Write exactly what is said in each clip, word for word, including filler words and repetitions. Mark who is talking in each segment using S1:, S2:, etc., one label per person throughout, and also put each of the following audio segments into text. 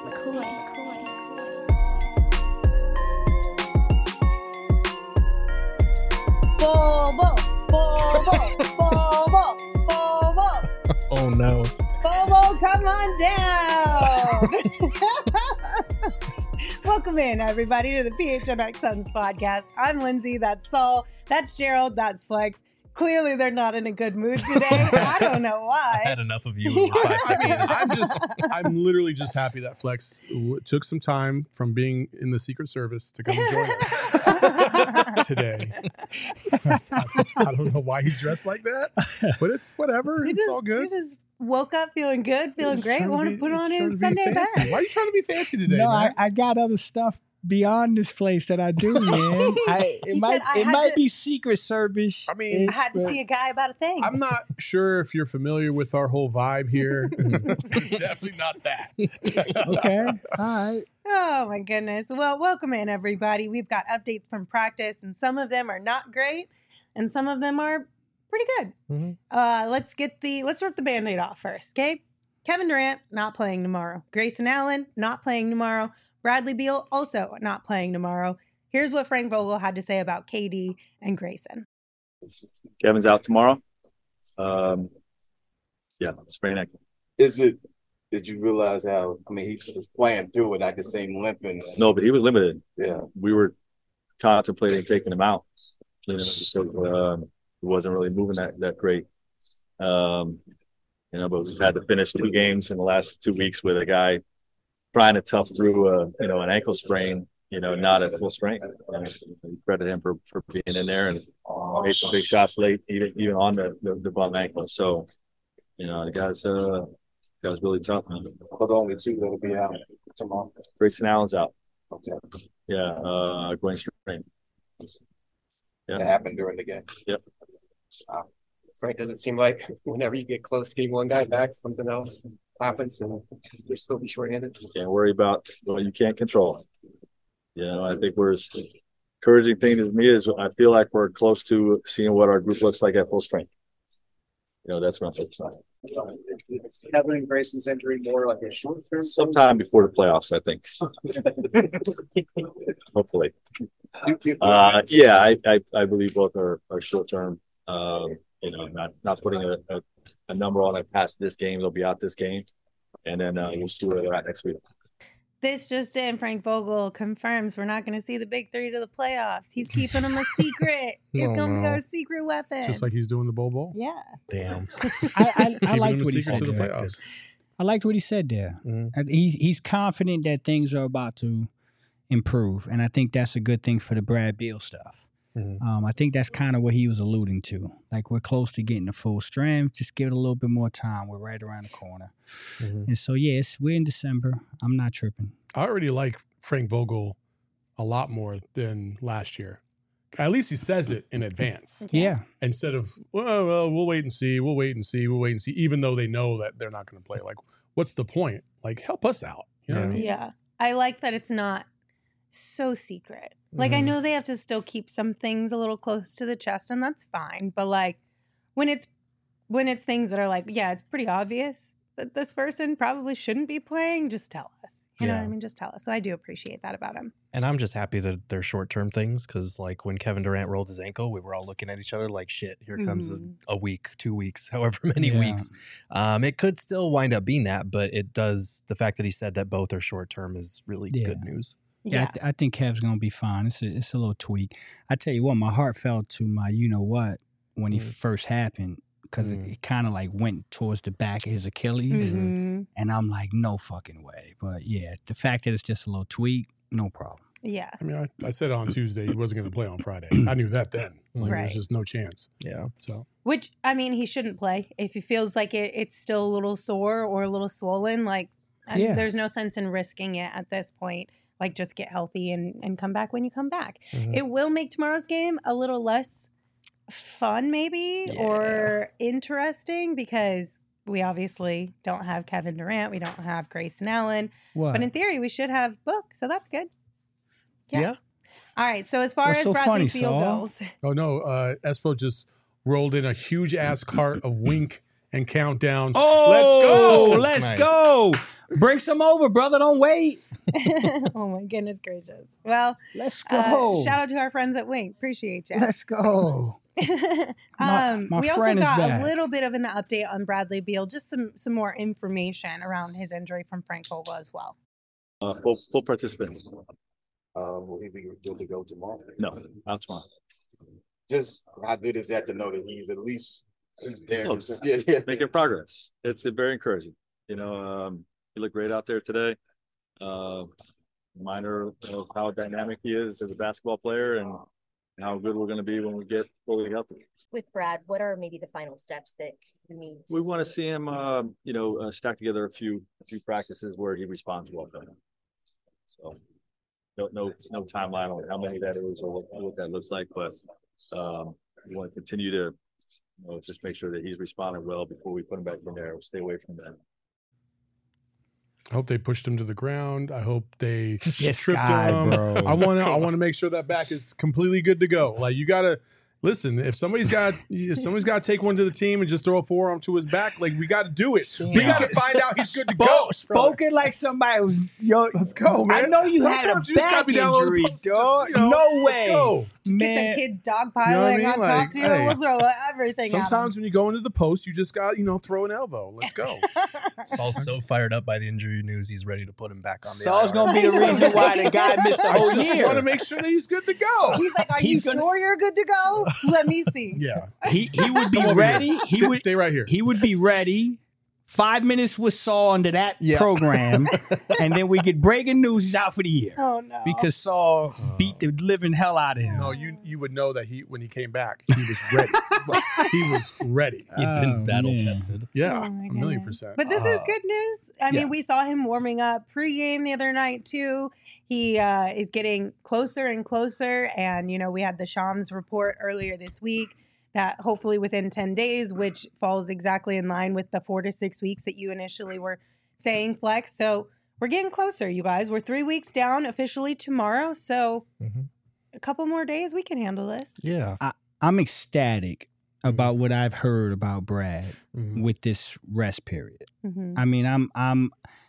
S1: McCoy. McCoy.
S2: Bobo, Bobo, Bobo, Bobo.
S3: Oh no.
S2: Bobo, come on down. Welcome in, everybody, to the P H N X Suns podcast. I'm Lindsay. That's Saul. That's Gerald. That's Flex. Clearly, they're not in a good mood today. I don't know why.
S3: I had enough of you. In five
S4: I mean,
S3: seconds.
S4: I'm just, I'm literally just happy that Flex w- took some time from being in the Secret Service to come join us today. I, I don't know why he's dressed like that, but it's whatever.
S2: You
S4: It's
S2: just,
S4: all good.
S2: You just woke up feeling good, feeling
S4: He's
S2: great,
S4: trying
S2: want
S4: be-
S2: to put
S4: he's
S2: on
S4: trying
S2: his
S4: to be
S2: Sunday
S4: fancy.
S2: best.
S4: Why are you trying to be fancy today,
S5: No,
S4: man?
S5: I, I got other stuff beyond this place that I do, man. I, it
S2: He
S5: might
S2: said I
S5: it
S2: had
S5: might
S2: to-
S5: be Secret Service.
S4: I mean,
S2: I had to see a guy about a thing.
S4: I'm not sure if you're familiar with our whole vibe here. It's definitely not that.
S5: Okay, all right.
S2: Oh my goodness. Well, welcome in, everybody. We've got updates from practice, and some of them are not great, and some of them are pretty good.
S3: Mm-hmm.
S2: Uh, let's get the let's rip the Band-Aid off first, okay? Kevin Durant not playing tomorrow. Grayson Allen not playing tomorrow. Bradley Beal also not playing tomorrow. Here's what Frank Vogel had to say about K D and Grayson.
S6: Kevin's out tomorrow. Um, yeah, sprain ankle.
S7: Is it? Did you realize how? I mean, he was playing through it. I could see him limping.
S6: No, but he was limited.
S7: Yeah.
S6: We were contemplating taking him out, you know, because um, he wasn't really moving that that great. Um, you know, but we've had to finish two games in the last two weeks with a guy trying to tough through a you know an ankle sprain. You know, not at full strength. And we credit him for, for being in there and made some big shots late, even even on the the, the bum ankle. So, you know, the guy's uh, the guy's really tough, man.
S7: But the only two that'll be out tomorrow.
S6: Grayson Allen's out.
S7: Okay.
S6: Yeah, uh, groin strain. Yeah.
S7: That happened during the game.
S6: Yep.
S8: Uh, Frank, doesn't seem like whenever you get close to getting one guy back, something else happens and you'll still be shorthanded.
S6: Can't worry about what you can't control. You know, I think we're as encouraging thing to me is I feel like we're close to seeing what our group looks like at full strength. You know, that's what I'm focused on.
S8: Is Kevin and Grayson's injury more like a short term?
S6: Sometime before the playoffs, I think. Hopefully. Uh, yeah, I, I, I believe both are, are short term. Um, you know, not not putting a, a, a number on it past this game. They'll be out this game. And then uh, we'll see where they're at next week.
S2: This just in, Frank Vogel confirms we're not going to see the big three to the playoffs. He's keeping them a secret. It's
S4: Oh,
S2: going to be
S4: no.
S2: our secret weapon.
S4: Just like he's doing the Bowl Bowl.
S2: yeah.
S3: Damn.
S5: I, I, I
S4: Keeping
S5: liked
S4: him a
S5: what he
S4: secret
S5: said
S4: to the
S5: there.
S4: playoffs.
S5: I liked what he said there.
S3: Mhm.
S5: I- He's he's confident that things are about to improve, and I think that's a good thing for the Brad Beal stuff.
S3: Mhm.
S5: Um, I think that's kind of what he was alluding to. Like, we're close to getting to full strength. Just give it a little bit more time. We're right around the corner.
S3: Mhm.
S5: And so, yes, we're in December. I'm not tripping.
S4: I already like Frank Vogel a lot more than last year. At least he says it in advance
S5: Yeah.
S4: instead of, well, well, we'll wait and see, we'll wait and see, we'll wait and see, even though they know that they're not going to play. Like, what's the point? Like, help us out. You know what I mean?
S2: Yeah. I like that it's not so secret. Like, I
S4: Mhm.
S2: know they have to still keep some things a little close to the chest, and that's fine. But like, when it's when it's things that are like, yeah, it's pretty obvious that this person probably shouldn't be playing, just tell us. You know what I
S3: Yeah.
S2: mean? Just tell us. So I do appreciate that about him.
S3: And I'm just happy that they're short term things because, like, when Kevin Durant rolled his ankle, we were all looking at each other like, shit, here comes
S2: Mhm.
S3: a, a week, two weeks, however many
S5: Yeah.
S3: weeks. Um, it could still wind up being that, but it does. The fact that he said that both are short term is really
S5: Yeah.
S3: good news.
S5: Yeah,
S2: Yeah.
S5: I, th- I think Kev's gonna be fine. It's a, it's a little tweak. I tell you what, my heart fell to my you know what when he
S3: Mm.
S5: first happened because
S3: Mm.
S5: it, it kind of like went towards the back of his Achilles,
S2: Mhm.
S5: and I'm like, no fucking way. But yeah, the fact that it's just a little tweak, no problem.
S2: Yeah.
S4: I mean, I, I said on Tuesday he wasn't going to play on Friday. I knew that then. Like,
S2: Right.
S4: There's just no chance.
S3: Yeah.
S4: So
S2: Which, I mean, he shouldn't play. If he feels like it, it's still a little sore or a little swollen, like, I-
S5: Yeah.
S2: there's no sense in risking it at this point. Like, just get healthy and, and come back when you come back.
S3: Mhm.
S2: It will make tomorrow's game a little less fun, maybe, or interesting because we obviously don't have Kevin Durant. We don't have Grayson Allen.
S5: What?
S2: But in theory, we should have Book. So that's good. Yeah.
S3: Yeah.
S2: All right. So as far
S5: What's
S2: as
S5: so
S2: Bradley
S5: funny,
S2: Beal
S5: Saul?
S2: goes,
S4: Oh no, uh, Espo just rolled in a huge ass cart of Wink and countdowns.
S5: Oh,
S4: let's
S5: let's
S3: Nice.
S5: go. Bring some over, brother. Don't wait.
S2: Oh my goodness gracious. Well,
S5: Let's
S2: uh,
S5: go.
S2: shout out to our friends at Wink. Appreciate you.
S5: Let's go. My-
S2: um,
S5: my
S2: we also
S5: friend is
S2: got a
S5: back.
S2: little bit of an update on Bradley Beal, just some some more information around his injury from Frank Vogel as well.
S6: Uh, full, full participant.
S7: Um, will he be good to go tomorrow?
S6: No, out tomorrow.
S7: Just how good is that to know that he's at least he's there?
S6: Close.
S7: Yeah, yeah.
S6: Making progress. It's uh, very encouraging. You know, um, he looked great out there today. Uh, reminder of how dynamic he is as a basketball player and how good we're going to be when we get fully healthy.
S1: With Brad, what are maybe the final steps that you need?
S6: We want to see him, um, you know, uh, stack together a few a few practices where he responds well. From them. So, no, no, no timeline on how many that is or what, what that looks like, but um, we want to continue to, you know, just make sure that he's responding well before we put him back in there. Stay away from that.
S4: I hope they pushed him to the ground. I hope they
S5: This
S4: tripped
S5: guy,
S4: him.
S5: bro.
S4: I want to. I want to make sure that back is completely good to go. Like you gotta listen. If somebody's got, if somebody's got to take one to the team and just throw a forearm to his back, like we got to do it. We got to find out he's good to go.
S5: Spoke, spoken like somebody who's yo.
S4: Let's go, man.
S5: I know you had a
S4: Sometimes you just gotta
S5: back
S4: be down low
S5: injury,
S4: post,
S5: dog.
S4: just, you know,
S5: No
S4: let's
S5: way,
S4: go.
S2: Just get
S5: man.
S2: the kids dogpiling
S4: You know what I mean?
S2: on top
S4: Like,
S2: to you.
S4: hey.
S2: We'll throw everything
S4: Sometimes when you go into the post, you just got you know throw an elbow. Let's go.
S3: Saul's so fired up by the injury news, he's ready to put him back on the
S5: Saul's
S3: I R.
S5: gonna be the reason why the guy missed the
S4: I
S5: whole
S4: just
S5: year.
S4: want to make sure that he's good to go.
S2: He's like, are
S5: He's
S2: you
S5: gonna-
S2: sure you're good to go? Let me see.
S4: Yeah,
S5: He he would be
S4: Come over
S5: ready.
S4: here.
S5: He
S4: stay,
S5: would
S4: stay right here.
S5: he would be ready. Five minutes with Saul under that
S3: Yeah.
S5: program, and then we get breaking news. He's out for the year
S2: Oh no.
S5: because Saul beat the living hell out of him.
S4: No, you you would know that he when he came back, he was ready. he was ready.
S3: He'd been
S5: Oh,
S3: battle
S5: man.
S3: tested.
S4: Yeah,
S2: Oh,
S4: a
S2: my
S4: million
S2: goodness.
S4: percent.
S2: But this is
S3: Uh,
S2: good news. I mean,
S3: yeah.
S2: we saw him warming up pregame the other night too. He uh, is getting closer and closer, and you know we had the Shams report earlier this week that hopefully within ten days, which falls exactly in line with the four to six weeks that you initially were saying, Flex. So we're getting closer, you guys. We're three weeks down officially tomorrow, so
S3: Mhm.
S2: a couple more days we can handle this.
S3: Yeah.
S5: I'm ecstatic about what I've heard about Brad
S3: Mhm.
S5: with this rest period.
S2: Mhm.
S5: I mean, I'm I'm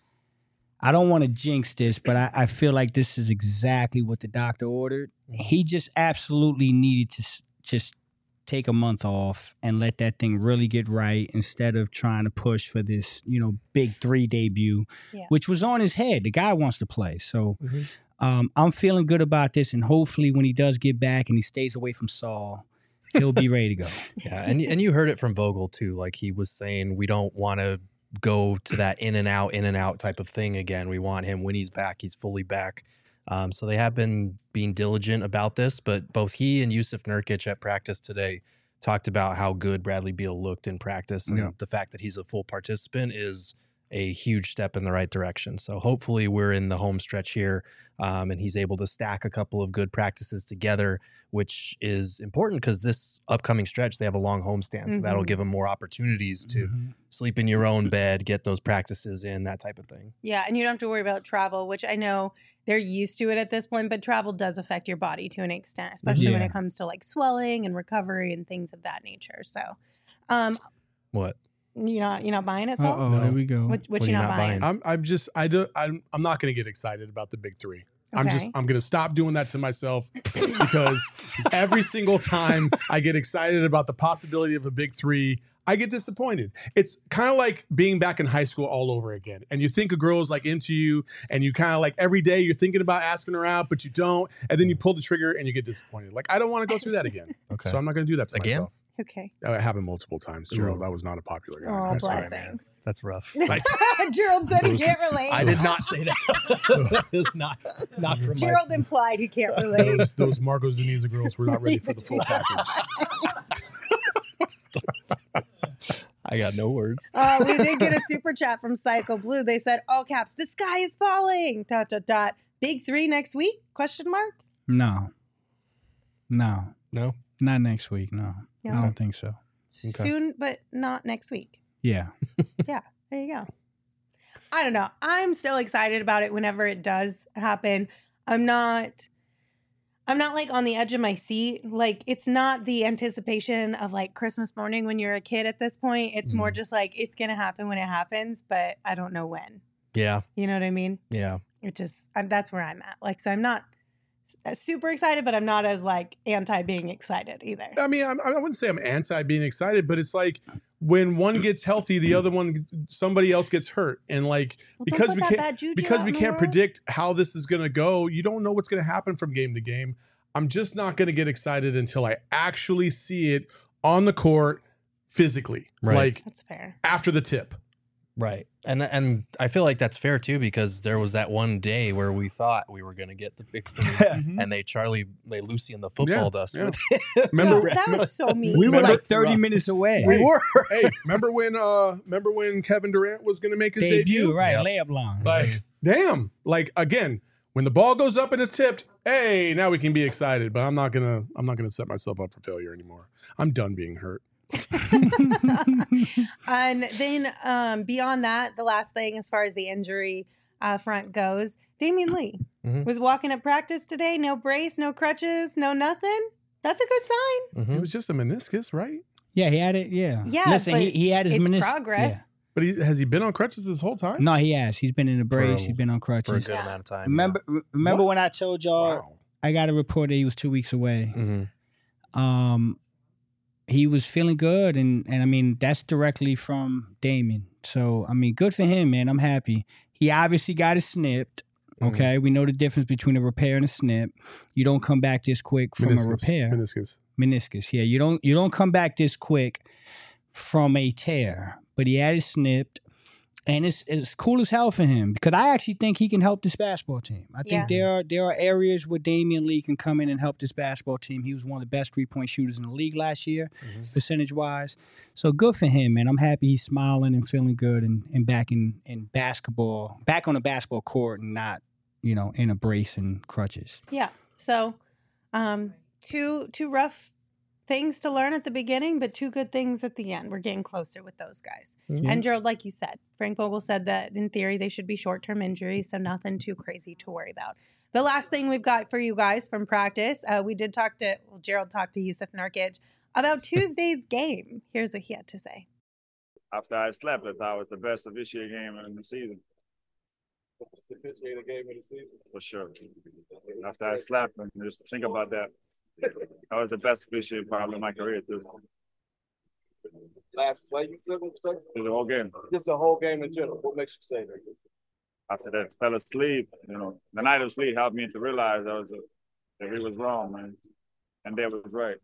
S5: I don't want to jinx this, but I, I feel like this is exactly what the doctor ordered. He just absolutely needed to s- just take a month off and let that thing really get right instead of trying to push for this, you know, big three debut,
S2: Yeah.
S5: which was on his head. The guy wants to play. So
S3: Mhm.
S5: um, I'm feeling good about this. And hopefully when he does get back and he stays away from Saul, he'll be ready to go.
S3: Yeah, and and you heard it from Vogel too. Like he was saying, we don't want to go to that in and out, in and out type of thing again. We want him when he's back, he's fully back. Um, so they have been being diligent about this, but both he and Yusuf Nurkic at practice today talked about how good Bradley Beal looked in practice, and
S4: Yeah.
S3: the fact that he's a full participant is a huge step in the right direction. So hopefully we're in the home stretch here, um, and he's able to stack a couple of good practices together, which is important because this upcoming stretch they have a long homestand, so that'll
S2: Mhm.
S3: give him more opportunities to
S5: Mhm.
S3: sleep in your own bed, get those practices in, that type of thing.
S2: Yeah, and you don't have to worry about travel, which I know they're used to it at this point, but travel does affect your body to an extent, especially when
S5: Yeah.
S2: it comes to like swelling and recovery and things of that nature. So, um,
S3: What?
S2: you're not you're not buying it, Saul?
S5: Uh-oh,
S4: No.
S5: there we go.
S2: What, what
S3: What
S2: you
S3: are you
S2: not,
S3: not
S2: buying?
S3: buying?
S4: I'm I'm just I do I'm I'm not going to get excited about the big three. I'm just
S2: Okay.
S4: I'm going to stop doing that to myself because every single time I get excited about the possibility of a big three, I get disappointed. It's kind of like being back in high school all over again. And you think a girl is like into you and you kind of like every day you're thinking about asking her out, but you don't. And then you pull the trigger and you get disappointed. Like, I don't want to go through that again.
S3: Okay.
S4: So I'm not going to do that to
S3: Again?
S4: myself.
S2: Okay.
S4: That happened multiple times, Gerald.
S3: Ooh.
S4: I was not a popular guy.
S2: Oh,
S4: I'm sorry, man.
S2: blessings.
S3: That's rough.
S4: Like,
S2: Gerald said he
S4: Those-
S2: can't relate.
S3: I did not say that. It's not not from my
S2: Gerald implied he can't relate.
S4: those, those Marcos Deniza girls were not ready for the full package.
S3: I got no words.
S2: Uh, we did get a super chat from Psycho Blue. They said, all caps, the sky is falling. Dot, dot, dot. Big three next week? Question mark?
S5: No. No.
S3: No?
S5: Not next week. No.
S2: No.
S5: I don't think so.
S3: Okay.
S2: Soon, but not next week.
S5: Yeah.
S2: There you go. I don't know. I'm still excited about it whenever it does happen. I'm not I'm not like on the edge of my seat. Like it's not the anticipation of like Christmas morning when you're a kid at this point. It's more
S3: Mm.
S2: just like it's gonna happen when it happens, but I don't know when.
S3: Yeah.
S2: You know what I mean?
S3: Yeah.
S2: It just I'm, that's where I'm at. Like so, I'm not s- super excited, but I'm not as like anti being excited either.
S4: I mean, I'm, I wouldn't say I'm anti being excited, but it's like when one gets healthy, the other one, somebody else gets hurt, and like
S2: Well, don't
S4: because
S2: put
S4: we
S2: that
S4: can't
S2: bad juju
S4: because
S2: out
S4: we
S2: in the
S4: can't
S2: world.
S4: predict how this is going to go. You don't know what's going to happen from game to game. I'm just not going to get excited until I actually see it on the court physically,
S3: Right.
S4: like
S2: That's fair.
S4: after the tip.
S3: Right. And and I feel like that's fair too, because there was that one day where we thought we were gonna get the big three,
S4: Mhm.
S3: and they Charlie they Lucy and the footballed us
S4: yeah.
S3: with
S4: Remember-
S2: that was so mean.
S5: We were
S4: Remember-
S5: like thirty minutes away.
S3: we were.
S4: Hey, remember when uh remember when Kevin Durant was going to make his debut?
S5: Debut, right?
S3: Yep.
S5: Layup line.
S4: Like, damn. Like again, when the ball goes up and it's tipped, hey, now we can be excited. But I'm not gonna I'm not gonna set myself up for failure anymore. I'm done being hurt.
S2: And then um, beyond that, the last thing as far as the injury uh, front goes, Damian Lee
S3: Mhm.
S2: was walking at practice today. No brace, no crutches, no nothing. That's a good sign.
S3: Mhm.
S4: It was just a meniscus, right?
S5: Yeah, he had it. Yeah.
S2: Yeah,
S5: Listen, he,
S2: but
S5: he had his
S2: It's
S5: menis-
S2: progress.
S5: yeah.
S4: But he, has he been on crutches this whole time?
S5: No, he has. He's been in a brace.
S3: a-
S5: He's been on
S3: For a
S5: crutches.
S3: good amount of time.
S5: Remember, remember
S4: What?
S5: when I told y'all
S4: Wow.
S5: I got a report that he was two weeks away.
S3: hmm
S5: Um, he was feeling good, and and I mean that's directly from Damien. So I mean, good for him, man. I'm happy. He obviously got it snipped.
S3: Mhm.
S5: Okay, we know the difference between a repair and a snip. You don't come back this quick from
S4: Meniscus.
S5: a repair.
S4: Meniscus.
S5: Meniscus. Yeah, you don't you don't come back this quick from a tear. But he had it snipped, and it's it's cool as hell for him because I actually think he can help this basketball team. I think
S2: Yeah.
S5: there are there are areas where Damian Lee can come in and help this basketball team. He was one of the best three point shooters in the league last year,
S3: Mhm.
S5: percentage wise. So good for him, man. I'm happy he's smiling and feeling good and, and back in, in basketball, back on the basketball court and not, you know, in a brace and crutches.
S2: Yeah. So, um, two two rough things to learn at the beginning, but two good things at the end. We're getting closer with those guys.
S5: Yeah.
S2: And Gerald, like you said, Frank Vogel said that in theory they should be short term injuries, so nothing too crazy to worry about. The last thing we've got for you guys from practice, uh, we did talk to well, Gerald talked to Yusuf Nurkic about Tuesday's game. Here's what he had to say.
S9: After I slept, I thought it was the best officiated game in the season,
S7: The officiated game of the season.
S9: for sure. After I slept, and just think about that. That was the best officiated probably in my career, too.
S7: Last play you took was best?
S9: Through the whole game.
S7: Just the whole game in general. What makes you say that?
S9: After that fell asleep, you know, the night of sleep helped me to realize that was a, that we was wrong, man. And they was right.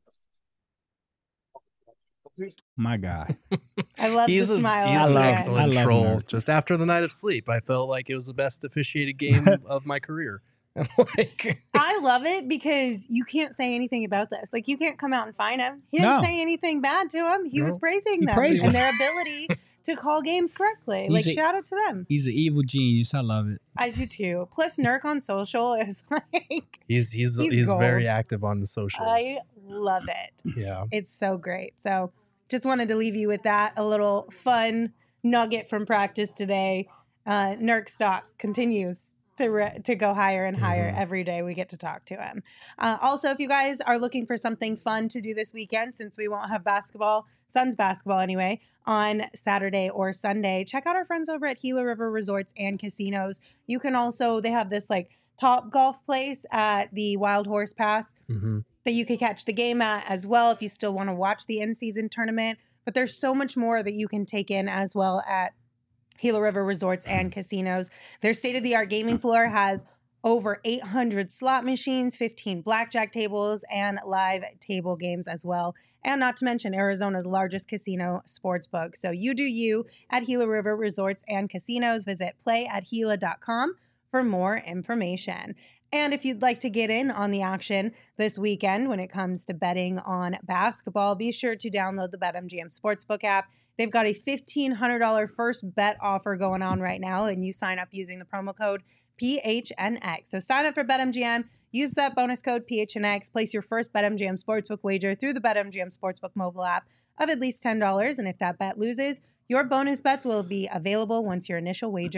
S5: My God.
S2: I love
S3: He's
S2: the
S3: a,
S2: smile.
S3: he's
S2: on
S3: an
S5: love-
S2: there.
S3: excellent
S5: I love
S3: troll.
S5: Nurk.
S3: Just after the night of sleep, I felt like it was the best officiated game of my career. And like,
S2: I love it because you can't say anything about this. Like you can't come out and find him. He didn't
S5: No.
S2: say anything bad to him. He was
S3: No.
S2: praising
S5: He
S2: them
S5: praised
S2: and
S5: them.
S2: their ability to call games correctly.
S5: He's
S2: like
S5: a-
S2: shout out to them.
S5: He's an evil genius. I love it.
S2: I do too. Plus Nurk on social is like
S3: he's he's
S2: He's
S3: he's,
S2: gold.
S3: very active on the socials.
S2: I love it.
S3: yeah.
S2: It's so great. So just wanted to leave you with that. A little fun nugget from practice today. Uh, Nurk stock continues to re- to go higher and higher
S3: Mhm.
S2: every day we get to talk to him. Uh, also, if you guys are looking for something fun to do this weekend, since we won't have basketball, Suns basketball anyway, on Saturday or Sunday, check out our friends over at Gila River Resorts and Casinos. You can also, they have this like top golf place at the Wild Horse Pass
S3: hmm
S2: that you could catch the game at as well if you still want to watch the in-season tournament. But there's so much more that you can take in as well at Gila River Resorts and Casinos. Their state-of-the-art gaming floor has over eight hundred slot machines, fifteen blackjack tables, and live table games as well. And not to mention Arizona's largest casino sports book. So you do you at Gila River Resorts and Casinos. Visit play at gila dot com for more information. And if you'd like to get in on the action this weekend when it comes to betting on basketball, be sure to download the BetMGM Sportsbook app. They've got a fifteen hundred dollars first bet offer going on right now, and you sign up using the promo code P H N X. So sign up for BetMGM, use that bonus code P H N X, place your first BetMGM Sportsbook wager through the BetMGM Sportsbook mobile app of at least ten dollars. And if that bet loses, your bonus bets will be available once your initial wager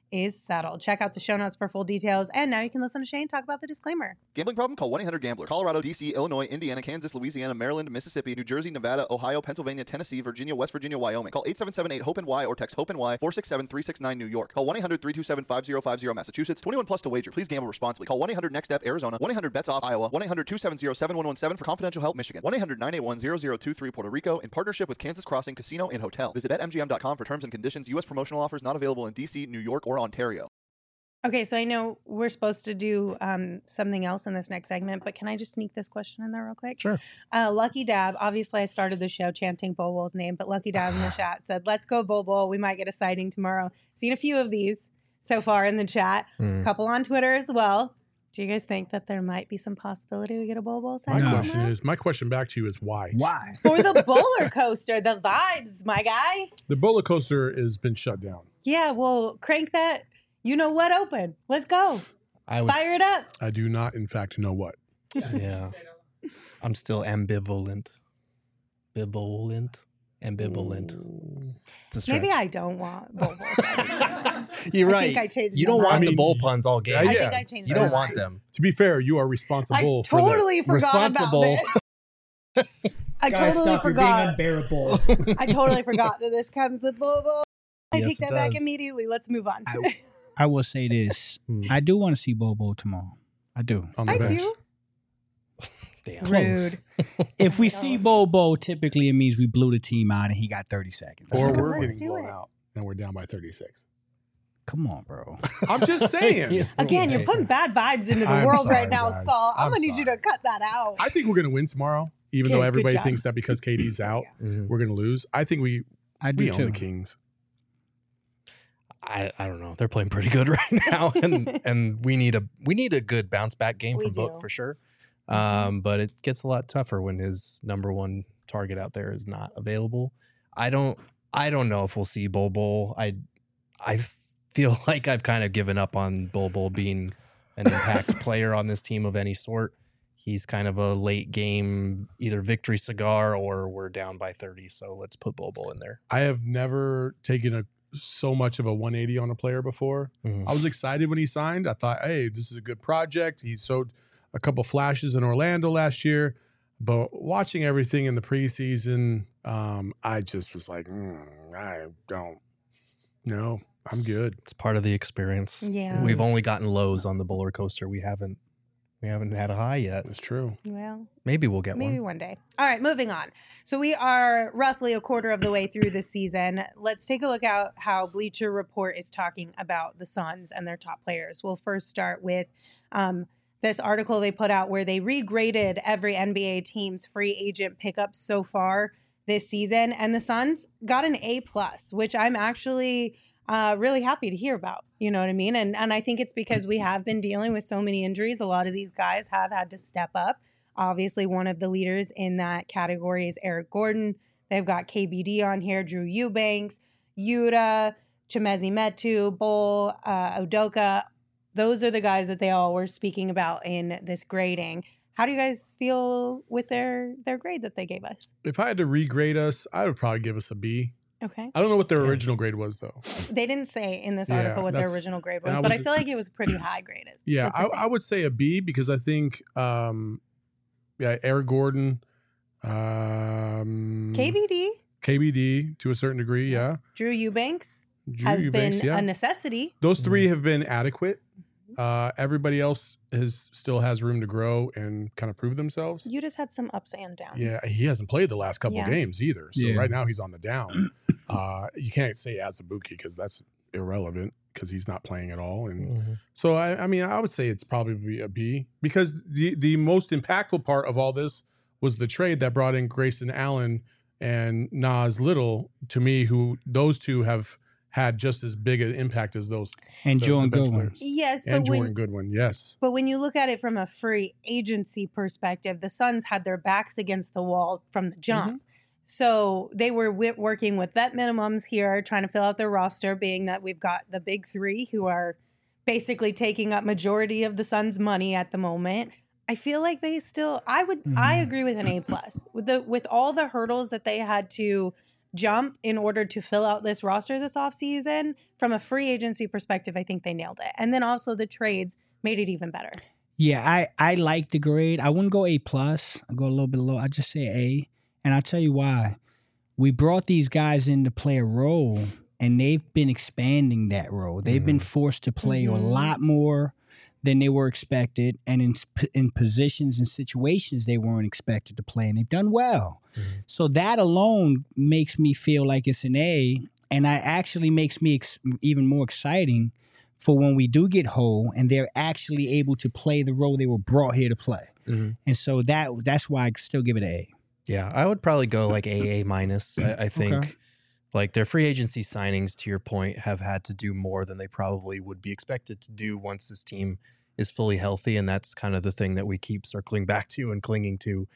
S2: is settled. Check out the show notes for full details. And now you can listen to Shane talk about the disclaimer.
S10: Gambling problem? Call one eight hundred gambler. Colorado, D C, Illinois, Indiana, Kansas, Louisiana, Maryland, Mississippi, New Jersey, Nevada, Ohio, Pennsylvania, Tennessee, Virginia, West Virginia, Wyoming. Call eight seven seven eight hope N Y or text hope N Y four six seven three six nine New York. Call one eight hundred three two seven five zero five zero Massachusetts. twenty-one plus to wager. Please gamble responsibly. Call one eight hundred next step Arizona. one eight hundred bets off Iowa. one eight hundred two seven zero seven one one seven for confidential help Michigan. one eight hundred nine eight one zero zero two three Puerto Rico in partnership with Kansas Crossing Casino and Hotel. Visit bet M G M dot com for terms and conditions. U S promotional offers not available in D C, New York, or Ontario.
S2: Okay, so I know we're supposed to do um, something else in this next segment, but can I just sneak this question in there real quick?
S3: Sure.
S2: Uh, Lucky Dab, obviously I started the show chanting Bobol's name, but Lucky Dab in the chat said, let's go Bobol. We might get a sighting tomorrow. Seen a few of these so far in the chat. A
S3: Mm.
S2: couple on Twitter as well. Do you guys think that there might be some possibility we get a Bobol
S4: My
S2: sighting
S5: No.
S4: question
S2: tomorrow?
S4: is, my question back to you is why?
S5: Why?
S2: For the bowler coaster, the vibes, my guy.
S4: The roller coaster has been shut down.
S2: Yeah, well, crank that. You know what? Open. Let's go.
S3: I was,
S2: Fire it up.
S4: I do not, in fact, know what.
S3: Yeah. I'm still ambivalent. Bivalent. Ambivalent. It's a stretch.
S2: Maybe I don't want Bobo sighting.
S3: You're
S2: I
S3: right.
S2: think I changed
S3: you
S2: my
S3: don't want
S2: mind.
S4: I
S3: the
S4: mean,
S3: bull puns all game.
S4: yeah,
S2: I
S4: yeah.
S2: think I changed
S3: You
S2: my
S3: don't
S2: mind.
S3: want them.
S4: To be fair, you are
S2: I
S4: responsible for
S2: totally
S4: this.
S2: forgot
S3: Responsible.
S2: about this. I
S11: Guys,
S2: totally
S11: stop! You're
S2: forgot.
S11: being unbearable.
S2: I totally forgot that this comes with Bobo. I
S3: Yes,
S2: take
S3: it
S2: that back
S3: does.
S2: immediately. Let's move on.
S5: I, I will say this.
S3: Hmm.
S5: I do want to see Bobo tomorrow. I do.
S4: On the
S2: I
S4: bench.
S2: do.
S3: Damn.
S2: Rude.
S5: If we
S2: I
S5: see
S2: know.
S5: Bobo, typically it means we blew the team out and he got thirty seconds.
S4: Or
S2: Let's
S4: we're
S2: do
S4: getting blown
S2: it.
S4: out and we're down by thirty-six.
S5: Come on, bro.
S4: I'm just saying.
S3: Yeah.
S2: Again, you're
S3: Hey.
S2: putting bad vibes into the
S4: I'm
S2: world
S4: sorry,
S2: right now,
S4: guys.
S2: Saul. I'm,
S4: I'm
S2: gonna need you to
S4: sorry.
S2: cut that out.
S4: I think we're going to win tomorrow, even
S2: Okay,
S4: though
S2: good
S4: everybody
S2: job.
S4: thinks that because K D's out,
S3: Mhm.
S4: we're going to lose. I think we,
S5: I do
S4: we own
S5: too.
S4: the Kings.
S3: I, I don't know. They're playing pretty good right now, and and we need a we need a good bounce back game
S2: We
S3: from Book
S2: do.
S3: for sure.
S2: Mhm.
S3: Um, but it gets a lot tougher when his number one target out there is not available. I don't I don't know if we'll see Bol Bol. I I feel like I've kind of given up on Bol Bol being an impact player on this team of any sort. He's kind of a late game, either victory cigar or we're down by thirty. So let's put Bol Bol in there.
S4: I have never taken a so much of a one eighty on a player before.
S3: Mhm.
S4: I was excited when he signed. I thought, hey, this is a good project. He showed a couple flashes in Orlando last year, but watching everything in the preseason, um, I just was like, mm, I don't know. I'm good.
S3: It's part of the experience.
S2: Yeah.
S3: We've only gotten lows on the roller coaster. We haven't we haven't had a high yet.
S4: That's true.
S2: Well,
S3: Maybe we'll get
S2: maybe
S3: one.
S2: one day. All right, moving on. So we are roughly a quarter of the way through this season. Let's take a look at how Bleacher Report is talking about the Suns and their top players. We'll first start with um, this article they put out where they regraded every N B A team's free agent pickups so far this season, and the Suns got an A plus, which I'm actually uh, really happy to hear about. You know what I mean? And and I think it's because we have been dealing with so many injuries. A lot of these guys have had to step up. Obviously, one of the leaders in that category is Eric Gordon. They've got K B D on here, Drew Eubanks, Yuta, Chimezi Metu, Bull, uh, Udoka. Those are the guys that they all were speaking about in this grading. How do you guys feel with their their grade that they gave us?
S4: If I had to regrade us, I would probably give us a B.
S2: Okay.
S4: I don't know what their
S3: Yeah.
S4: original grade was, though.
S2: They didn't say in this
S4: Yeah,
S2: article what their
S4: that's-
S2: original grade
S4: and
S2: was,
S4: I
S2: but I
S4: was-
S2: feel like it was pretty high graded.
S4: Yeah,
S2: What
S4: I,
S2: they say.
S4: I would say a B because I think, um, yeah, Eric Gordon, um,
S2: K B D
S4: K B D to a certain degree, yeah.
S2: yes. Drew Eubanks
S4: Drew
S2: has
S4: Eubanks,
S2: been
S4: yeah.
S2: a necessity.
S4: Those three have been adequate. Uh, everybody else is still has room to grow and kind of prove themselves.
S2: You just had some ups and downs.
S4: Yeah, he hasn't played the last couple
S2: Yeah.
S4: games either. So
S5: Yeah.
S4: right now he's on the down. uh, you can't say Azubuike because that's irrelevant because he's not playing at all. And
S3: Mhm.
S4: so I, I mean, I would say it's probably a B because the the most impactful part of all this was the trade that brought in Grayson Allen and Nas Little. To me, who those two have had just as big an impact as those
S5: And
S4: the-
S5: Jordan
S4: the bench
S5: Goodwin.
S4: players.
S2: Yes,
S4: and
S2: but when
S4: Jordan Goodwin. Yes,
S2: But when you look at it from a free agency perspective, the Suns had their backs against the wall from the jump.
S4: Mm-hmm.
S2: So they were wi- working with vet minimums here, trying to fill out their roster, being that we've got the big three who are basically taking up majority of the Suns' money at the moment. I feel like they still I would I
S5: Mhm.
S2: agree with an A plus. With the with all the hurdles that they had to jump in order to fill out this roster this offseason. From a free agency perspective, I think they nailed it. And then also the trades made it even better.
S5: Yeah, I, I like the grade. I wouldn't go A plus. I go a little bit low. I just say A. And I'll tell you why. We brought these guys in to play a role, and they've been expanding that role. They've mm-hmm. been forced to play mm-hmm. a lot more than they were expected, and in in positions and situations they weren't expected to play, and they've done well. Mm-hmm. So that alone makes me feel like it's an A, and that actually makes me ex- even more exciting for when we do get whole and they're actually able to play the role they were brought here to play. Mm-hmm. And so that that's why I still give it an A.
S3: Yeah, I would probably go like A, A minus. I, I think okay. like their free agency signings, to your point, have had to do more than they probably would be expected to do once this team is fully healthy. And that's kind of the thing that we keep circling back to and clinging to.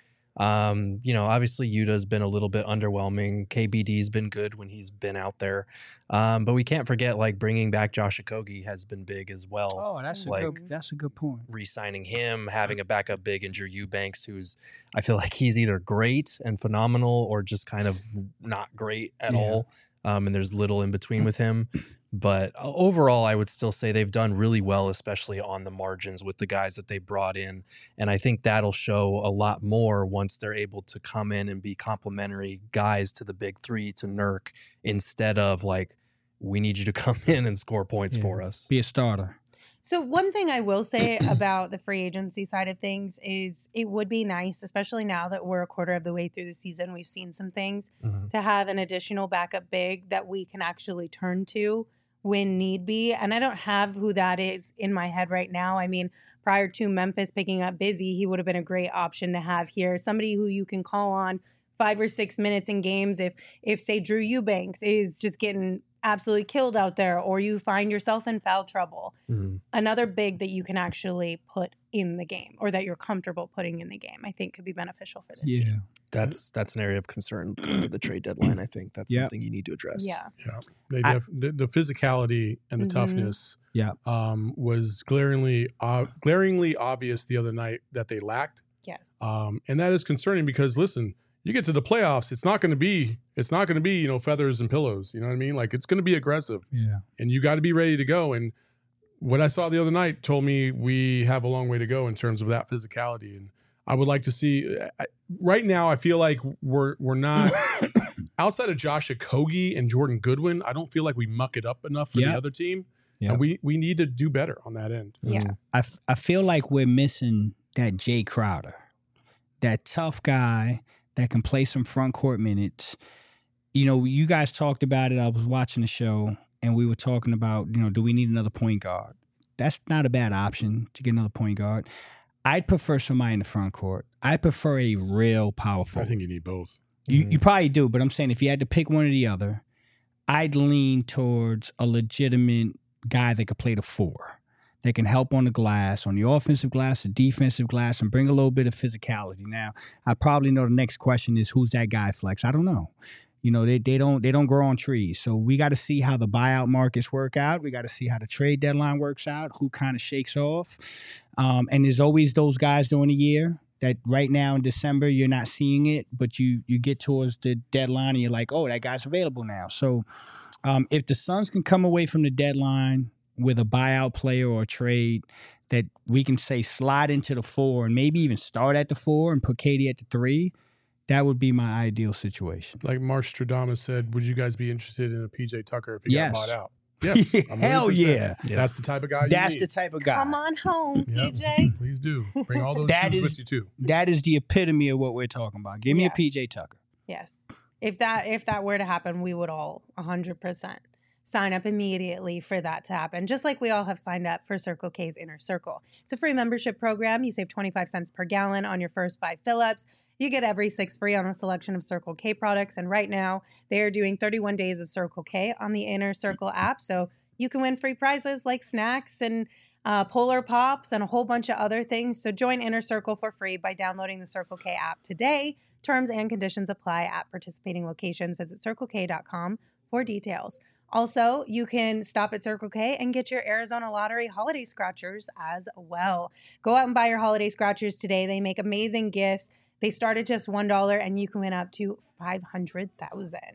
S3: Um, you know, obviously Yuta's been a little bit underwhelming. K B D's been good when he's been out there. Um, but we can't forget, like, bringing back Josh Okogie has been big as well.
S5: Oh, that's
S3: like,
S5: a good, that's a good point.
S3: Re-signing him, having a backup big in Drew Eubanks, who's, I feel like he's either great and phenomenal or just kind of not great at yeah. all. Um, and there's little in between with him. But overall, I would still say they've done really well, especially on the margins with the guys that they brought in. And I think that'll show a lot more once they're able to come in and be complementary guys to the big three, to Nurk, instead of like, we need you to come in and score points yeah. for us.
S5: Be a starter.
S2: So one thing I will say about the free agency side of things is it would be nice, especially now that we're a quarter of the way through the season, we've seen some things, mm-hmm. to have an additional backup big that we can actually turn to when need be. And I don't have who that is in my head right now. I mean, prior to Memphis picking up Busy, he would have been a great option to have here. Somebody who you can call on five or six minutes in games if, if say, Drew Eubanks is just getting absolutely killed out there, or you find yourself in foul trouble. Mm-hmm. Another big that you can actually put in the game, or that you're comfortable putting in the game, I think could be beneficial for this
S5: yeah.
S2: team.
S3: That's that's an area of concern for the trade deadline. I think that's
S5: yep.
S3: something you need to address.
S2: Yeah,
S4: yeah. They def- I, the, the physicality and the mm-hmm. toughness,
S5: yeah,
S4: um, was glaringly uh, glaringly obvious the other night that they lacked.
S2: Yes,
S4: um, and that is concerning because listen, you get to the playoffs, it's not going to be it's not going to be you know feathers and pillows. You know what I mean? Like, it's going to be aggressive.
S5: Yeah,
S4: and you got to be ready to go. And what I saw the other night told me we have a long way to go in terms of that physicality. And I would like to see. I, right now, I feel like we're we're not outside of Josh Okogie and Jordan Goodwin. I don't feel like we muck it up enough for
S5: yep.
S4: the other team,
S5: yep.
S4: and we we need to do better on that end.
S2: Yeah,
S5: I, f- I feel like we're missing that Jay Crowder, that tough guy that can play some front court minutes. You know, you guys talked about it. I was watching the show, and we were talking about, you know, do we need another point guard? That's not a bad option to get another point guard. I'd prefer somebody in the front court. I prefer a real power forward.
S4: I think you need both.
S5: You,
S4: mm-hmm.
S5: you probably do, but I'm saying if you had to pick one or the other, I'd lean towards a legitimate guy that could play the four, that can help on the glass, on the offensive glass, the defensive glass, and bring a little bit of physicality. Now, I probably know the next question is, who's that guy, Flex? I don't know. You know, they they don't they don't grow on trees. So we got to see how the buyout markets work out. We got to see how the trade deadline works out, who kind of shakes off. Um, and there's always those guys during the year that right now in December you're not seeing it, but you you get towards the deadline and you're like, oh, that guy's available now. So um, if the Suns can come away from the deadline with a buyout player or a trade that we can say slide into the four and maybe even start at the four and put Katie at the three, that would be my ideal situation.
S4: Like Marstradamus said, would you guys be interested in a P J Tucker if he
S5: yes.
S4: got bought out? Yes.
S5: Hell yeah.
S4: yeah. That's the type of guy you
S5: That's
S4: need.
S5: the type of guy.
S2: Come on home,
S4: yep.
S2: P J.
S4: Please do. Bring all those
S5: that
S4: shoes
S5: is,
S4: with you too.
S5: That is the epitome of what we're talking about. Give me
S2: yeah.
S5: a P J Tucker.
S2: Yes. If that if that were to happen, we would all one hundred percent sign up immediately for that to happen. Just like we all have signed up for Circle K's Inner Circle. It's a free membership program. You save twenty-five cents per gallon on your first five fill-ups. You get every six free on a selection of Circle K products. And right now, they are doing thirty-one days of Circle K on the Inner Circle app. So you can win free prizes like snacks and uh, Polar Pops and a whole bunch of other things. So join Inner Circle for free by downloading the Circle K app today. Terms and conditions apply at participating locations. Visit circle k dot com for details. Also, you can stop at Circle K and get your Arizona Lottery holiday scratchers as well. Go out and buy your holiday scratchers today. They make amazing gifts. They start at just one dollar and you can win up to five hundred thousand dollars.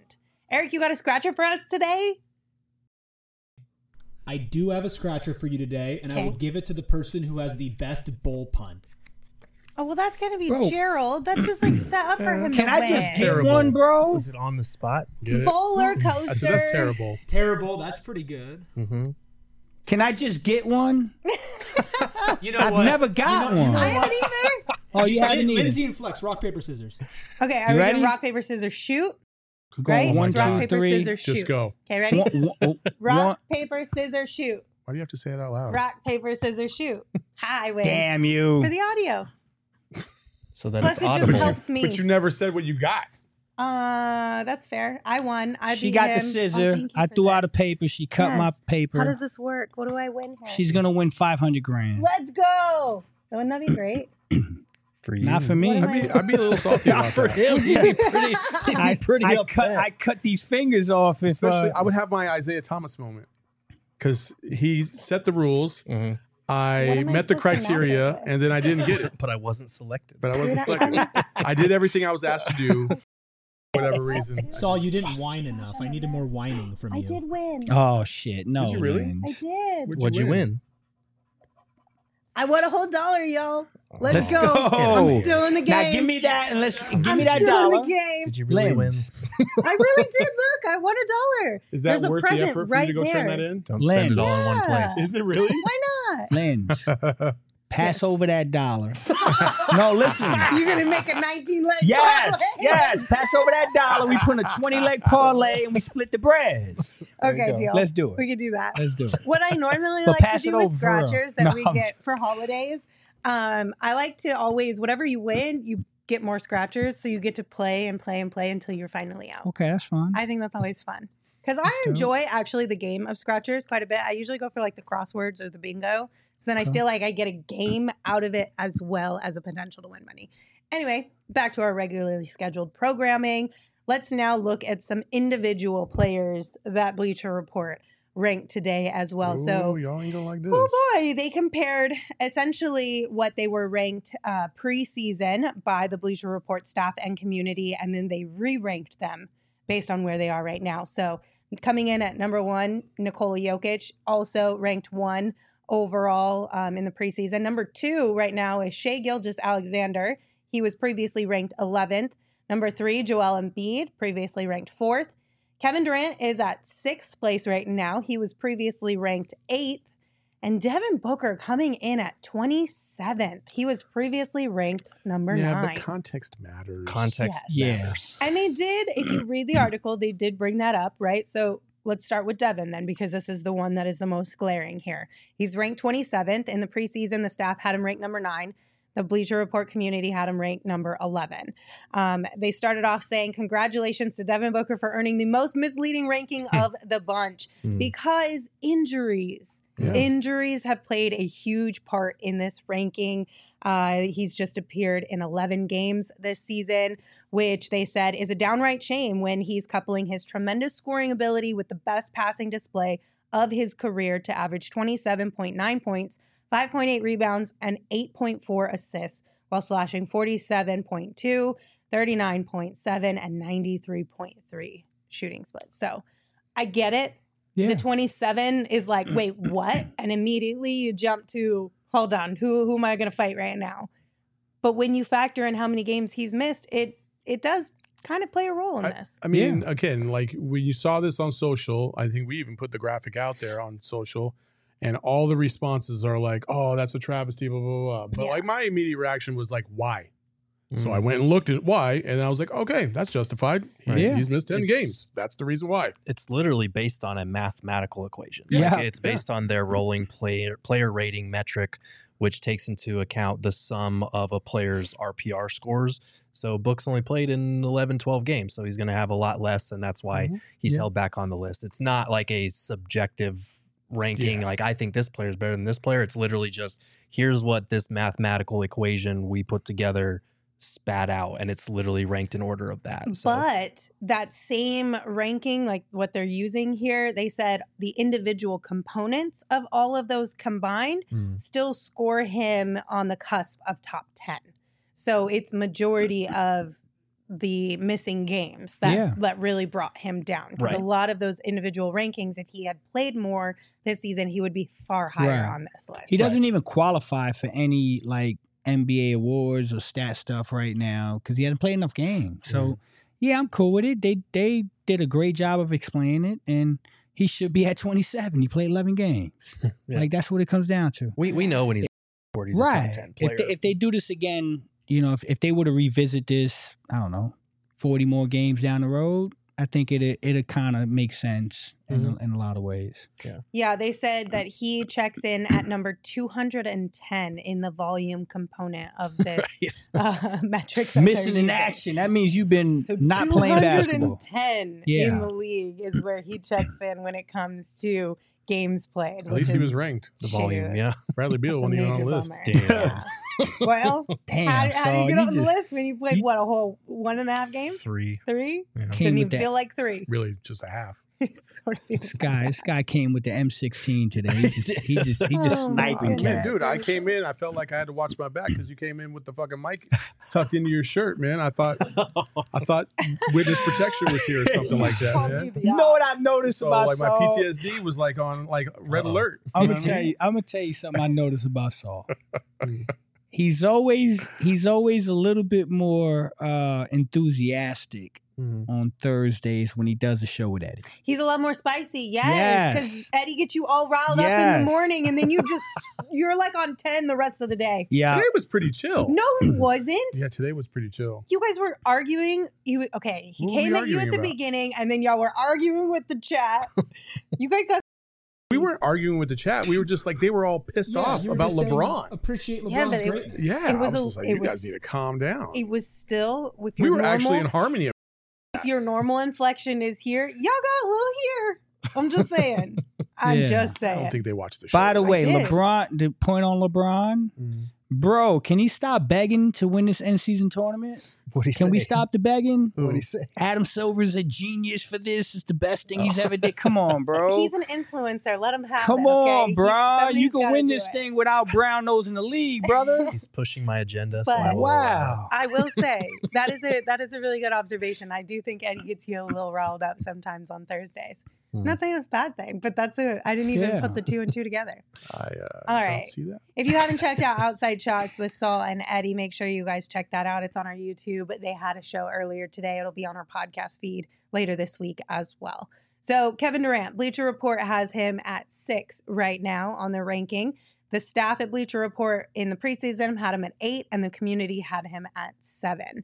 S2: Eric, you got a scratcher for us today?
S11: I do have a scratcher for you today, and
S2: Okay.
S11: I will give it to the person who has the best bowl pun.
S2: Oh, well, that's going to be
S4: Bro.
S2: Gerald. That's just like set up for him
S5: Can
S2: to
S5: I
S2: win.
S5: just get
S4: Terrible.
S5: one, bro?
S3: Was it on the spot?
S4: Get it?
S2: Bowler
S4: I
S2: coaster.
S4: said that's terrible.
S11: Terrible. That's pretty good.
S3: Mm-hmm.
S5: Can I just get one?
S11: You know
S5: I've
S11: what?
S5: never got
S11: You know- you
S5: one.
S11: know
S2: I
S11: what?
S2: haven't either.
S5: Oh, you haven't
S11: Lin-
S5: either.
S11: Lindsay and Flex, rock, paper, scissors.
S2: Okay, are
S5: You
S2: we
S5: ready?
S2: doing rock, paper, scissors, shoot?
S5: Go
S2: Right?
S5: One,
S2: It's
S5: two,
S2: rock, paper,
S5: three.
S2: scissors, shoot.
S4: Just go.
S2: Okay, ready?
S5: One- one- oh,
S2: Rock,
S5: one-
S2: paper, scissors, shoot.
S4: Why do you have to say it out loud?
S2: Rock, paper, scissors, shoot. Hi, I win.
S5: Damn you.
S2: For the audio.
S3: So then
S2: Plus,
S3: it's
S2: it just
S3: audible.
S2: helps me.
S4: But you never said what you got.
S2: Uh, that's fair. I won. I
S5: She
S2: beat
S5: got
S2: him.
S5: the
S2: Oh,
S5: scissor.
S2: thank you
S5: I
S2: for
S5: threw out a
S2: this.
S5: paper. She cut my
S2: Yes.
S5: paper.
S2: How does this work? What do I win here?
S5: She's gonna win five hundred grand.
S2: Let's go. Wouldn't that be great?
S3: For you.
S5: Not for me.
S2: What am
S4: I'd be, I'd be a little salty
S3: Not
S4: about
S3: for
S4: that.
S3: him. He'd be pretty, he'd
S5: I,
S3: be pretty
S5: I
S3: upset.
S5: cut. I cut these fingers off. If
S4: Especially,
S5: uh,
S4: I would have my Isaiah Thomas moment because he set the rules.
S3: Mhm.
S2: What
S4: I
S2: am I
S4: met the
S2: supposed to match it
S4: criteria,
S2: with?
S4: and then I didn't get it.
S3: But I wasn't selected.
S4: But I wasn't
S2: Did I-
S4: selected. I did everything I was asked to do, for whatever reason.
S11: Saul, you didn't whine enough. I needed more whining from
S2: I
S11: you.
S2: did win.
S5: oh shit! No,
S4: Did you really?
S5: Lynn.
S2: I did.
S4: What'd
S3: What'd you win?
S2: I won a whole dollar, y'all. Let's,
S5: Let's
S2: go.
S5: go.
S2: I'm still in the game.
S5: Now give me that and let's give
S2: I'm
S5: me that
S2: still
S5: dollar.
S2: in the game.
S3: Did you really
S5: Lens.
S3: win?
S2: I really did. Look, I won a dollar.
S4: Is that
S2: There's a
S4: worth the
S2: present
S4: effort for
S2: right
S4: you to go
S2: there.
S4: turn that in?
S3: Don't spend it all in one
S2: Yeah.
S3: place.
S4: Is it really?
S2: Why not?
S5: Lens, pass
S2: Yes.
S5: over that dollar. No, listen.
S2: You're gonna make a nineteen leg.
S5: Yes,
S2: parlay.
S5: yes. Pass over that dollar. We put a twenty leg parlay and we split the bread.
S2: Okay,
S4: go.
S2: deal.
S5: Let's do
S2: We
S5: it.
S2: can do that.
S5: Let's do it.
S2: What I normally
S5: But
S2: like to
S5: pass
S2: do
S5: it
S2: with
S5: over for real.
S2: scratchers that
S5: No,
S2: we
S5: I'm
S2: get for holidays, um, I like to always, whatever you win, you get more scratchers, so you get to play and play and play until you're finally out.
S5: Okay, that's fine.
S2: I think that's always fun because I
S5: That's dope.
S2: enjoy actually the game of scratchers quite a bit. I usually go for like the crosswords or the bingo, so then I
S5: Okay.
S2: feel like I get a game out of it as well as a potential to win money. Anyway, back to our regularly scheduled programming. Let's now look at some individual players that Bleacher Report ranked today as well. So
S4: Ooh, y'all ain't gonna like this.
S2: oh boy, they compared essentially what they were ranked uh, preseason by the Bleacher Report staff and community, and then they re-ranked them based on where they are right now. So coming in at number one, Nikola Jokic, also ranked one overall um, in the preseason. Number two right now is Shai Gilgeous-Alexander. He was previously ranked eleventh. Number three, Joel Embiid, previously ranked fourth. Kevin Durant is at sixth place right now. He was previously ranked eighth. And Devin Booker coming in at twenty-seventh. He was previously ranked number
S4: yeah,
S2: nine.
S4: but context matters.
S3: Context
S5: Yes.
S3: matters.
S2: And they did, if you read the article, they did bring that up, right? So let's start with Devin then, because this is the one that is the most glaring here. He's ranked twenty-seventh. In the preseason, the staff had him ranked number nine. The Bleacher Report community had him ranked number eleven. Um, they started off saying, congratulations to Devin Booker for earning the most misleading ranking of the bunch
S3: Hmm.
S2: because injuries.
S4: Yeah.
S2: Injuries have played a huge part in this ranking. Uh, he's just appeared in eleven games this season, which they said is a downright shame when he's coupling his tremendous scoring ability with the best passing display of his career to average twenty-seven point nine points, five point eight rebounds, and eight point four assists, while slashing forty-seven point two, thirty-nine point seven, and ninety-three point three shooting splits. So I get it.
S5: Yeah.
S2: The twenty-seven is like, wait, what? And immediately you jump to, hold on, who who am I going to fight right now? But when you factor in how many games he's missed, it it does kind of play a role in
S4: I,
S2: this.
S4: I mean, again, like when you saw this on social, I think we even put the graphic out there on social, and all the responses are like, "Oh, that's a travesty," blah blah blah. But
S2: Yeah.
S4: like my immediate reaction was like, "Why?" So
S3: Mm.
S4: I went and looked at why, and I was like, "Okay, that's justified. He-
S3: Right.
S5: Yeah.
S4: He's missed ten
S3: It's-
S4: games. That's the reason why."
S3: It's literally based on a mathematical equation.
S5: Yeah.
S3: Like, it's based on their rolling player player rating metric, which takes into account the sum of a player's R P R scores. So Book's only played in eleven, twelve games, so he's going to have a lot less, and that's why
S5: Mhm.
S3: he's
S5: Yeah.
S3: held back on the list. It's not like a subjective ranking,
S4: Yeah.
S3: like I think this player is better than this player. It's literally just here's what this mathematical equation we put together spat out, and it's literally ranked in order of that. So
S2: But that same ranking, like what they're using here, they said the individual components of all of those combined
S3: Mm.
S2: still score him on the cusp of top ten. So it's majority of the missing games that,
S5: Yeah.
S2: that really brought him down. Because a
S3: Right.
S2: lot of those individual rankings, if he had played more this season, he would be far higher
S5: Right.
S2: on this list.
S5: He doesn't even qualify for any like N B A awards or stat stuff right now because he hasn't played enough games. So yeah, I'm cool with it. They they did a great job of explaining it, and he should be at twenty-seven. He played eleven games.
S3: Yeah.
S5: Like that's what it comes down to.
S3: We we know when he's he's a
S5: right.
S3: top ten player.
S5: If they, if they do this again, you know, if if they were to revisit this, I don't know, forty more games down the road, I think it it kind of makes sense in a, in a lot of ways.
S3: Yeah.
S2: Yeah, they said that he checks in at number two hundred ten in the volume component of this uh, metrics. that
S5: Missing
S2: they're
S5: in
S2: using.
S5: action. That means you've been
S2: So
S5: not playing basketball.
S2: two hundred ten
S5: Yeah.
S2: in the league is where he checks in when it comes to games played.
S4: At least he was ranked.
S3: The volume,
S2: Shoot.
S3: yeah.
S4: Bradley Beal
S2: That's a
S4: wasn't even on the
S2: major
S4: list.
S2: bummer.
S3: Damn.
S2: Yeah. Well,
S5: Damn,
S2: how, how do
S5: Saul,
S2: you get
S5: you
S2: on the
S5: just-
S2: list when you played, what, a whole one and a half games?
S3: Three.
S2: Three?
S3: Yeah.
S5: Came
S2: Didn't
S5: with
S2: even
S5: that-
S2: feel like three.
S4: Really, just a half.
S2: It sort of feels
S5: This
S2: like
S5: guy,
S2: that.
S5: this guy came with the M sixteen today. He just, he just, he just
S2: Oh,
S5: sniping
S2: man.
S4: Man,
S5: cats.
S4: dude, I came in. I felt like I had to watch my back because you came in with the fucking mic tucked into your shirt, man. I thought, I thought witness protection was here or something like that,
S2: Called
S4: man.
S2: you the
S5: You know what I noticed
S4: So
S5: about
S4: like my
S5: Saul?
S4: P T S D was like on like red
S3: Uh-oh.
S4: alert.
S5: I'm
S4: You know
S5: gonna
S4: what I
S5: tell
S4: mean?
S5: you. I'm gonna tell you something I noticed about Saul. He's always he's always a little bit more uh, enthusiastic
S3: Mhm.
S5: on Thursdays when he does a show with Eddie.
S2: He's a lot more spicy, yes, because
S5: Yes.
S2: Eddie gets you all riled up in
S5: Yes.
S2: the morning, and then you just you're like on ten the rest of the day.
S5: Yeah,
S4: Today was pretty chill.
S2: No, it wasn't.
S4: Yeah, today was pretty chill.
S2: You guys were arguing. You okay? He
S4: What were
S2: came
S4: we
S2: at you at
S4: arguing
S2: the
S4: about?
S2: beginning, and then y'all were arguing with the chat. You guys got
S4: We weren't arguing with the chat. We were just like they were all pissed
S11: Yeah,
S4: off
S11: you were
S4: about
S11: just saying,
S4: LeBron.
S11: appreciate LeBron's
S2: Yeah, but it-
S11: greatness.
S4: Yeah,
S2: It was
S4: I
S2: a-
S4: was just like,
S2: it
S4: you guys
S2: was-
S4: need to calm down.
S2: it was still with
S4: We
S2: your
S4: were
S2: normal.
S4: actually in harmony.
S2: If your normal inflection is here, y'all got a little here. I'm just saying. I'm
S5: Yeah.
S2: just
S4: I
S2: saying.
S4: don't think they watched the show.
S5: By the way,
S2: did.
S5: LeBron. The point on LeBron,
S3: Mhm.
S5: bro. Can he stop begging to win this end season tournament?
S3: What'd he
S5: Can we
S3: say?
S5: stop the begging?
S3: What'd he say?
S5: Adam Silver's a genius for this. It's the best thing he's ever did. Come on, bro.
S2: He's an influencer. Let him have
S5: Come
S2: it. okay?
S5: on,
S2: He-
S5: bro.
S2: somebody's
S5: You can
S2: gotta
S5: win
S2: do
S5: this
S2: it.
S5: thing without brown nose in the league, brother.
S3: He's pushing my agenda. So
S2: But-
S3: I will, uh,
S5: Wow.
S2: I will say that is a that is a really good observation. I do think Eddie gets you a little riled up sometimes on Thursdays. I'm
S3: Hmm.
S2: not saying it's a bad thing, but that's a I didn't even
S5: Yeah.
S2: put the two and two together.
S4: I uh,
S2: All
S4: don't
S2: right.
S4: see that.
S2: If you haven't checked out Outside Shots with Saul and Eddie, make sure you guys check that out. It's on our YouTube. They had a show earlier today. It'll be on our podcast feed later this week as well. So Kevin Durant, Bleacher Report has him at six right now on their ranking. The staff at Bleacher Report in the preseason had him at eight, and the community had him at seven.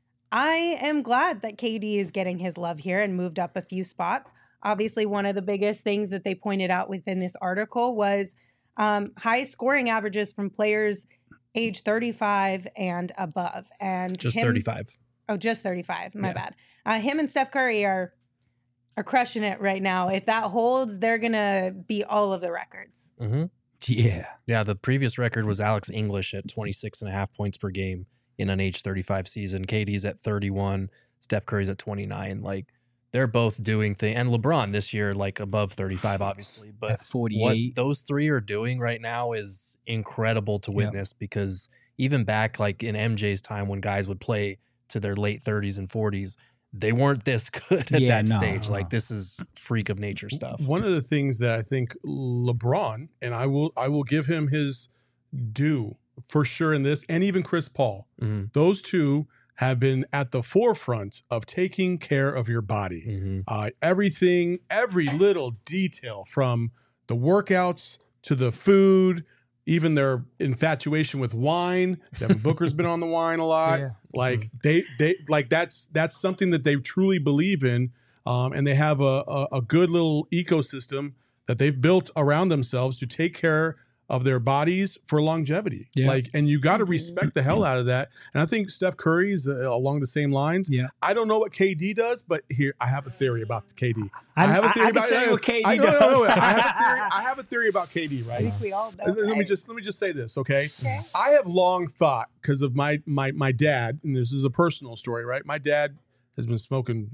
S2: I am glad that K D is getting his love here and moved up a few spots. Obviously, one of the biggest things that they pointed out within this article was um, high scoring averages from players age thirty-five and above. And
S3: Just
S2: him-
S3: thirty-five.
S2: Oh, just thirty-five. My
S3: Yeah.
S2: bad. Uh, him and Steph Curry are are crushing it right now. If that holds, they're gonna beat all of the records.
S3: Mm-hmm.
S5: Yeah.
S3: Yeah, the previous record was Alex English at twenty-six and a half points per game in an age thirty-five season. K D's at thirty-one. Steph Curry's at twenty-nine. Like, they're both doing things. And LeBron this year, like, above thirty-five, obviously. But
S5: At
S3: what
S5: forty-eight.
S3: those three are doing right now is incredible to witness because even back, like, in M J's time when guys would play to their late thirties and forties, they weren't this good at
S5: Yeah,
S3: that
S5: no,
S3: stage.
S5: no.
S3: Like, this is freak of nature stuff.
S4: One of the things that I think LeBron, and I will I will give him his due for sure in this, and even Chris Paul,
S3: Mhm.
S4: those two have been at the forefront of taking care of your body.
S3: Mm-hmm.
S4: Uh, everything, every little detail from the workouts to the food, even their infatuation with wine. Devin Booker's been on the wine a lot.
S5: Yeah.
S4: Like they, they like that's that's something that they truly believe in, um, and they have a, a a good little ecosystem that they've built around themselves to take care of their bodies for longevity.
S5: Yeah.
S4: Like, and you got to respect the hell out of that. And I think Steph Curry's uh, along the same lines.
S5: Yeah.
S4: I don't know what K D does, but here I have a theory about K D.
S5: I-
S4: have a
S5: I-
S4: theory
S5: I can
S4: about
S5: tell you what K D
S4: I, no, no, no, no,
S5: does.
S4: I have a theory. I have a theory about K D.
S2: I
S4: Right.
S2: think we all know.
S4: Let me
S2: right?
S4: just let me just say this, okay?
S2: Okay.
S4: I have long thought because of my my my dad, and this is a personal story, right? My dad has been smoking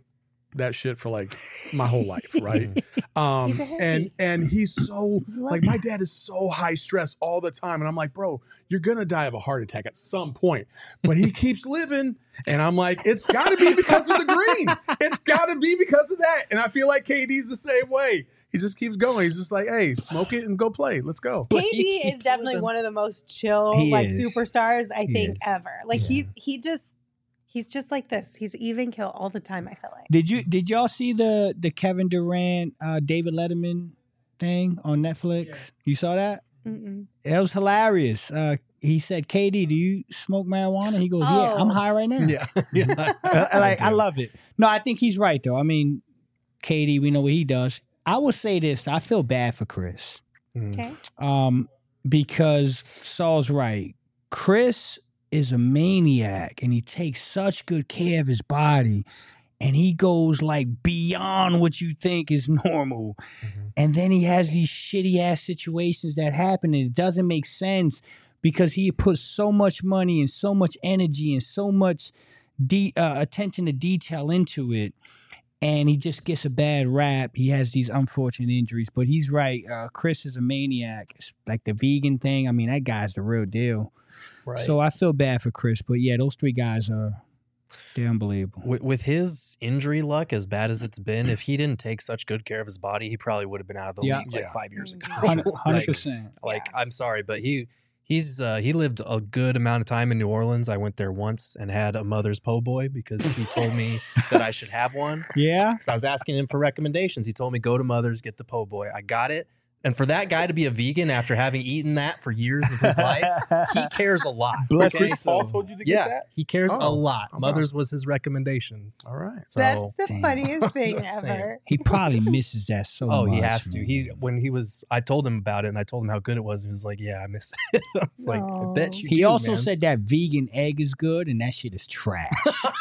S4: that shit for like my whole life, right? Um,
S2: He's a hippie.
S4: and and he's so
S2: Love
S4: like
S2: that.
S4: my dad is so high stress all the time, and I'm like, bro, you're gonna die of a heart attack at some point. But he keeps living, and I'm like, it's got to be because of the green. It's got to be because of that. And I feel like K D's the same way. He just keeps going. He's just like, hey, smoke it and go play. Let's go.
S2: K
S3: He
S2: D is
S3: keeps
S2: definitely
S3: living.
S2: one of the most chill
S5: He
S2: like
S5: is.
S2: superstars I
S5: He
S2: think
S5: is.
S2: ever. Like
S5: Yeah.
S2: he he just he's just like this. He's even kill all the time. I feel like.
S5: Did you did y'all see the the Kevin Durant uh, David Letterman thing on Netflix? You saw that?
S2: Mm-mm.
S5: It was hilarious. Uh, he said, "K D, do you smoke marijuana?" He goes, "Yeah, I'm
S2: Oh.
S5: high right now."
S3: Yeah. yeah.
S5: Uh, like I love it. No, I think he's right though. I mean, K D, we know what he does. I will say this: I feel bad for Chris,
S3: Mm.
S2: Okay.
S5: um, because Saul's right. Chris is a maniac, and he takes such good care of his body, and he goes like beyond what you think is normal.
S3: Mhm.
S5: And then he has these shitty ass situations that happen, and it doesn't make sense because he puts so much money and so much energy and so much de- uh, attention to detail into it, and he just gets a bad rap. He has these unfortunate injuries, but he's right. Uh, Chris is a maniac. It's like the vegan thing. I mean, that guy's the real deal.
S3: Right.
S5: So I feel bad for Chris, but yeah, those three guys are they're unbelievable.
S3: with, with his injury luck, as bad as it's been, if he didn't take such good care of his body, he probably would have been out of the
S5: Yeah.
S3: league like
S4: Yeah.
S3: five years ago.
S5: Hundred
S3: Like-
S5: percent.
S3: Like,
S2: Yeah.
S3: I'm sorry, but he he's uh, he lived a good amount of time in New Orleans. I went there once and had a mother's po' boy because he told me that I should have one.
S5: Yeah.
S3: Because I was asking him for recommendations. He told me go to Mother's, get the po' boy. I got it. And for that guy to be a vegan after having eaten that for years of his life, he cares a lot.
S5: Bless
S3: okay?
S5: his
S4: Paul
S5: soul.
S4: told you to get
S3: Yeah,
S4: that?
S3: he cares a
S4: Oh,
S3: lot.
S4: wow.
S3: Mother's was his recommendation.
S4: All right.
S3: So
S2: That's the
S5: Damn.
S2: funniest thing
S3: Just saying.
S2: ever.
S5: He probably misses that so much.
S3: oh, he has to.
S5: man.
S3: He when he was, I told him about it, and I told him how good it was. He was like, "Yeah, I miss it." I was like, "I bet you."
S5: He
S3: do,
S5: also
S3: man."
S5: said that vegan egg is good, and that shit is trash.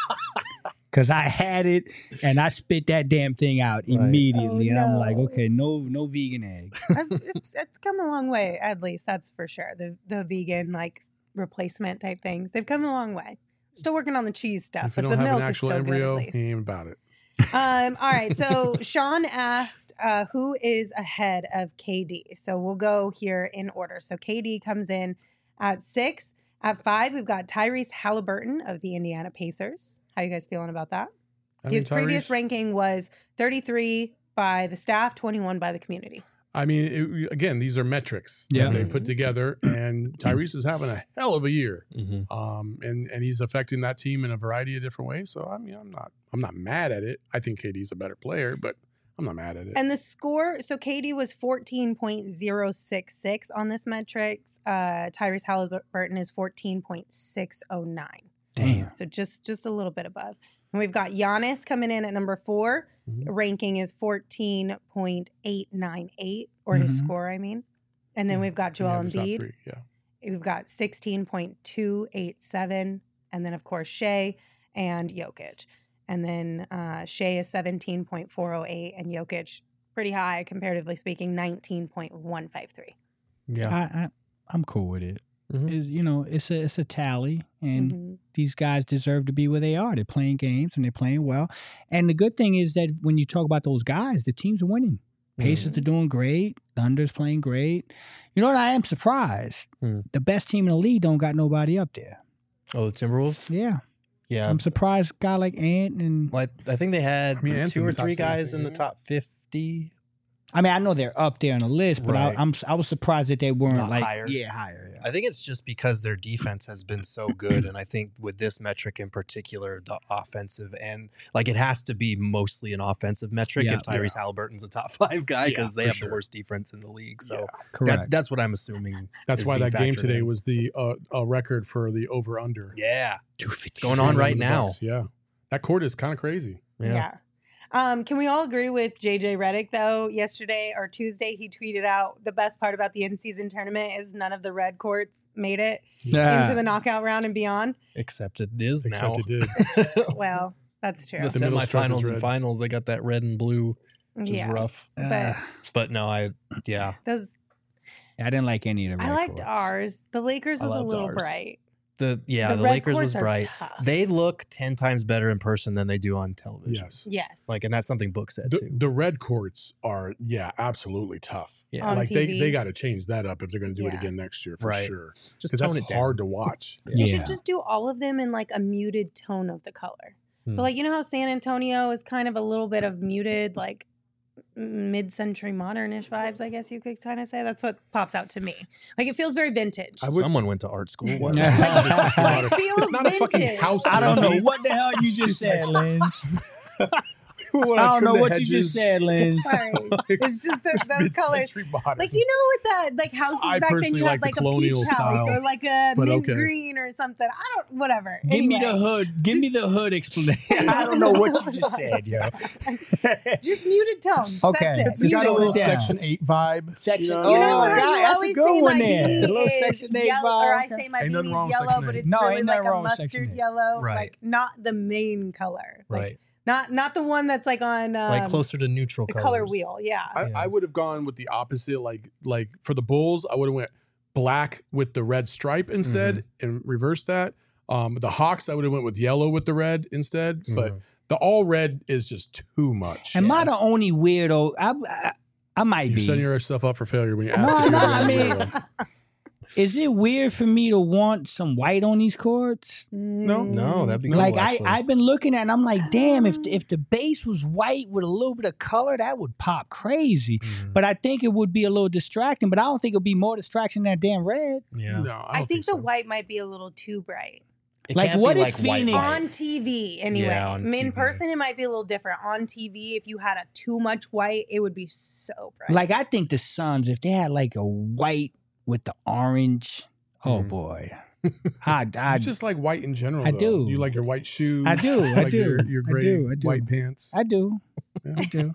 S5: Cause I had it and I spit that damn thing out
S3: Right.
S5: immediately,
S2: Oh,
S5: and I'm like,
S2: no.
S5: okay, no, no vegan egg.
S2: I've- it's it's come a long way, at least that's for sure. The the vegan like replacement type things, they've come a long way. Still working on the cheese stuff,
S4: If you
S2: but
S4: don't
S2: the
S4: have
S2: milk
S4: an
S2: is
S4: actual
S2: still
S4: embryo,
S2: good at
S4: he
S2: least.
S4: ain't about it.
S2: Um, all right, so Sean asked uh, who is ahead of K D. So we'll go here in order. So K D comes in at six. At five, we've got Tyrese Halliburton of the Indiana Pacers. How you guys feeling about that?
S4: I
S2: His
S4: think
S2: previous
S4: Tyrese-
S2: ranking was thirty-three by the staff, twenty-one by the community.
S4: I mean, it, again, these are metrics
S5: Yeah.
S4: that they
S2: Mhm.
S4: put together, and Tyrese is having a hell of a year,
S3: Mhm.
S4: um, and and he's affecting that team in a variety of different ways. So I mean, I'm not I'm not mad at it. I think K D's a better player, but I'm not mad at it.
S2: And the score, so K D was fourteen point oh six six on this metrics. Uh, Tyrese Halliburton is fourteen point six oh nine.
S5: Damn.
S2: So just just a little bit above. And we've got Giannis coming in at number four.
S4: Mhm.
S2: Ranking is fourteen point eight nine eight, or his
S5: Mhm.
S2: score, I mean. And then
S4: Yeah.
S2: we've got
S4: Yeah,
S2: Joel
S4: the top
S2: Embiid.
S4: three, yeah.
S2: We've got sixteen point two eight seven. And then, of course, Shea and Jokic. And then uh, Shea is seventeen point four oh eight, and Jokic, pretty high, comparatively speaking, nineteen point one five three.
S3: Yeah.
S5: I, I I'm cool with it.
S3: Mhm.
S5: It's, you know, it's a it's a tally, and
S2: Mhm.
S5: these guys deserve to be where they are. They're playing games and they're playing well. And the good thing is that when you talk about those guys, the teams are winning. Pacers are doing great. Thunder's playing great. You know what? I am surprised.
S3: Hmm.
S5: The best team in the league don't got nobody up there.
S3: Oh, the Timberwolves.
S5: Yeah,
S3: Yeah.
S5: I'm surprised. A guy like Ant and
S3: Well, I, I think they had
S4: I mean, Ant's
S3: two
S4: in
S3: or
S4: the top
S3: three
S4: ten, I
S3: guys
S4: think,
S3: in the
S4: yeah.
S3: top fifty.
S5: I mean, I know they're up there on the list, but
S3: Right.
S5: I, I'm I was surprised that they weren't
S3: Not
S5: like
S3: higher.
S5: yeah higher. Yeah.
S3: I think it's just because their defense has been so good, and I think with this metric in particular, the offensive and like it has to be mostly an offensive metric
S5: Yeah.
S3: if Tyrese Halliburton's a top five guy
S4: Yeah,
S3: because they
S4: for
S3: have
S4: sure.
S3: the worst defense in the league. So
S5: Correct.
S3: that's that's what I'm assuming.
S4: That's
S3: is
S4: why
S3: being
S4: that game
S3: factored
S4: today
S3: in.
S4: was the uh, a record for the over under.
S3: Yeah, it's going on right now.
S4: Yeah, that court is kind of crazy.
S2: Yeah.
S3: Yeah.
S2: Um, can we all agree with J J Redick, though? Yesterday or Tuesday, he tweeted out the best part about the in-season tournament is none of the red courts made it
S5: Yeah.
S2: into the knockout round and beyond.
S3: Except it is
S4: Except
S3: now.
S4: it did.
S2: Well, that's true.
S3: The
S4: The middle stroke is
S3: semifinals and
S4: red.
S3: finals, they got that red and blue, which
S2: Yeah.
S3: is rough.
S2: But
S5: Uh,
S3: But no, I yeah.
S2: those
S5: I didn't like any of the.
S2: I
S5: red
S2: liked
S5: courts.
S2: ours. The Lakers
S3: I
S2: was a
S3: loved
S2: little
S3: ours.
S2: bright.
S3: The yeah,
S2: The
S3: the,
S2: red
S3: Lakers was
S2: courts are
S3: bright.
S2: tough.
S3: They look ten times better in person than they do on television.
S4: Yes.
S2: Yes.
S3: Like, and that's something Book said
S4: The,
S3: too.
S4: the red courts are, yeah, absolutely tough.
S3: Yeah.
S2: On
S4: like
S2: T
S4: they,
S2: V.
S4: they got to change that up if they're going to do it
S2: Yeah.
S4: again next year for
S3: Right.
S4: sure.
S3: Just
S4: Because
S3: tone
S4: that's
S3: it down.
S4: hard to watch.
S2: You
S5: Yeah.
S2: should just do all of them in like a muted tone of the color. So
S3: Hmm.
S2: like you know how San Antonio is kind of a little bit of muted, like mid-century modernish vibes, I guess you could kind of say. That's what pops out to me. Like it feels very vintage.
S4: I would-
S3: Someone went to art school. What?
S2: Like, it feels
S4: It's not a fucking
S2: vintage.
S4: house.
S5: I don't know
S4: Lindsay.
S5: what the hell you just said, Lynn.
S4: When
S5: I don't
S4: trim
S5: know
S4: the
S5: what you just
S4: hedges,
S5: said, Lynn.
S2: Sorry. It's just that those colors.
S4: mid-century modern.
S2: Like you know with that like houses
S4: I
S2: back then
S4: personally
S2: you had
S4: like
S2: like
S4: the
S2: a
S4: colonial
S2: peach house
S4: style,
S2: or like a
S4: but
S2: mint
S4: okay.
S2: green or something. I don't whatever.
S5: Give me the
S2: Anyway,
S5: hood. Give me the hood explanation. I don't know what you just said, yo.
S2: just muted tones.
S5: Okay.
S2: That's
S4: It's
S2: it.
S5: You
S4: got a
S5: tone
S4: little
S5: it down.
S4: Section eight vibe.
S5: Section-
S4: you know?
S2: You know
S5: Oh,
S2: how
S5: God,
S2: you
S5: that's a
S2: always
S5: good
S2: say
S5: one
S2: my
S5: there.
S2: beanie
S5: A little
S2: is
S5: Section eight
S2: yellow, or I
S5: vibe.
S2: say my
S4: Ain't nothing
S2: beanie
S4: wrong
S2: is
S4: with
S2: yellow,
S4: Section
S2: but
S4: eight.
S2: it's
S5: No,
S2: really
S5: ain't
S2: like
S5: nothing
S2: a
S5: wrong with Section
S2: mustard
S5: eight.
S2: yellow,
S3: Right.
S2: like not the main color, like,
S3: Right.
S2: Not not the one that's like on um,
S3: Like closer to neutral
S2: the
S3: colors.
S2: color wheel. Yeah,
S4: I,
S3: Yeah.
S4: I would have gone with the opposite. Like like for the Bulls, I would have went black with the red stripe instead and reversed that. Um, the Hawks, I would have went with yellow with the red instead. But
S3: Mhm.
S4: the all red is just too much.
S5: Am I the only weirdo? I, I, I might
S4: You're
S5: be.
S4: setting yourself up for failure when you ask.
S5: No,
S4: if you're
S5: no,
S4: the
S5: I
S4: only
S5: mean,
S4: weirdo.
S5: is it weird for me to want some white on these courts?
S4: No.
S3: No, that'd be
S4: No.
S3: cool,
S5: Like I,
S3: actually.
S5: I've been looking at, it and I'm like, damn, if if the base was white with a little bit of color, that would pop crazy.
S3: Mhm.
S5: But I think it would be a little distracting. But I don't think it'll be more distraction than that damn red.
S3: Yeah.
S4: No, I,
S2: I
S4: don't
S2: think the
S4: so.
S2: white might be a little too bright.
S3: It
S5: Like,
S3: can't
S5: what
S3: be
S5: if
S3: like white
S5: Phoenix-
S3: white.
S2: On T V, anyway.
S3: Yeah, on
S2: in
S3: T V.
S2: person, it might be a little different. On T V, if you had a too much white, it would be so bright.
S5: Like I think the Suns, if they had like a white with the orange, oh
S3: Mhm.
S5: boy, I, I
S4: You just like white in general.
S5: I
S4: though.
S5: do.
S4: You like your white shoes.
S5: I do,
S4: You
S5: I
S4: like
S5: do,
S4: Your, your
S5: I
S4: gray
S5: do, I do.
S4: white pants.
S5: I do,
S4: Yeah.
S5: I do.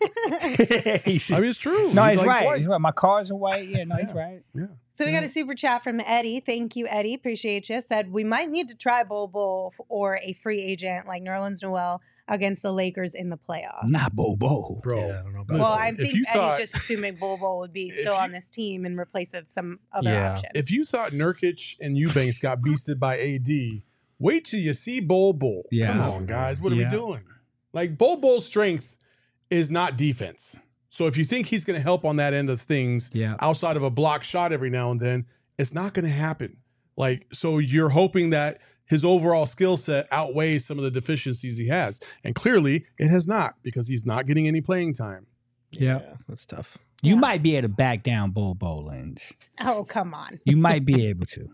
S4: I mean, it's true.
S5: No,
S4: He
S5: he's
S4: likes
S5: right.
S4: white.
S5: He's right. My cars are white. Yeah, no, he's
S4: Yeah.
S5: right.
S4: Yeah.
S2: So we got a super chat from Eddie. Thank you, Eddie. Appreciate you. Said we might need to try Bol Bol or a free agent like Nerlens Noel against the Lakers in the playoffs.
S5: Not Bobo.
S4: Bro.
S3: Yeah, I don't know about
S2: well,
S4: listen,
S2: I
S4: if
S2: think
S4: you
S2: Eddie's
S4: thought-
S2: just assuming Bol Bol would be
S4: If
S2: still
S4: you-
S2: on this team in replace of some other
S3: Yeah.
S2: option.
S4: If you thought Nurkic and Eubanks got beasted by A D, wait till you see Bol Bol.
S5: Yeah.
S4: Come on, guys. What are
S5: Yeah.
S4: we doing? Like, Bol Bol's strength is not defense. So if you think he's going to help on that end of things
S5: Yeah.
S4: outside of a block shot every now and then, it's not going to happen. Like, so you're hoping that his overall skill set outweighs some of the deficiencies he has. And clearly it has not, because he's not getting any playing time.
S5: Yeah.
S3: That's tough.
S5: You
S2: Yeah.
S5: might be able to back down Bobo, Lynch.
S2: oh, come on.
S5: You might be able to.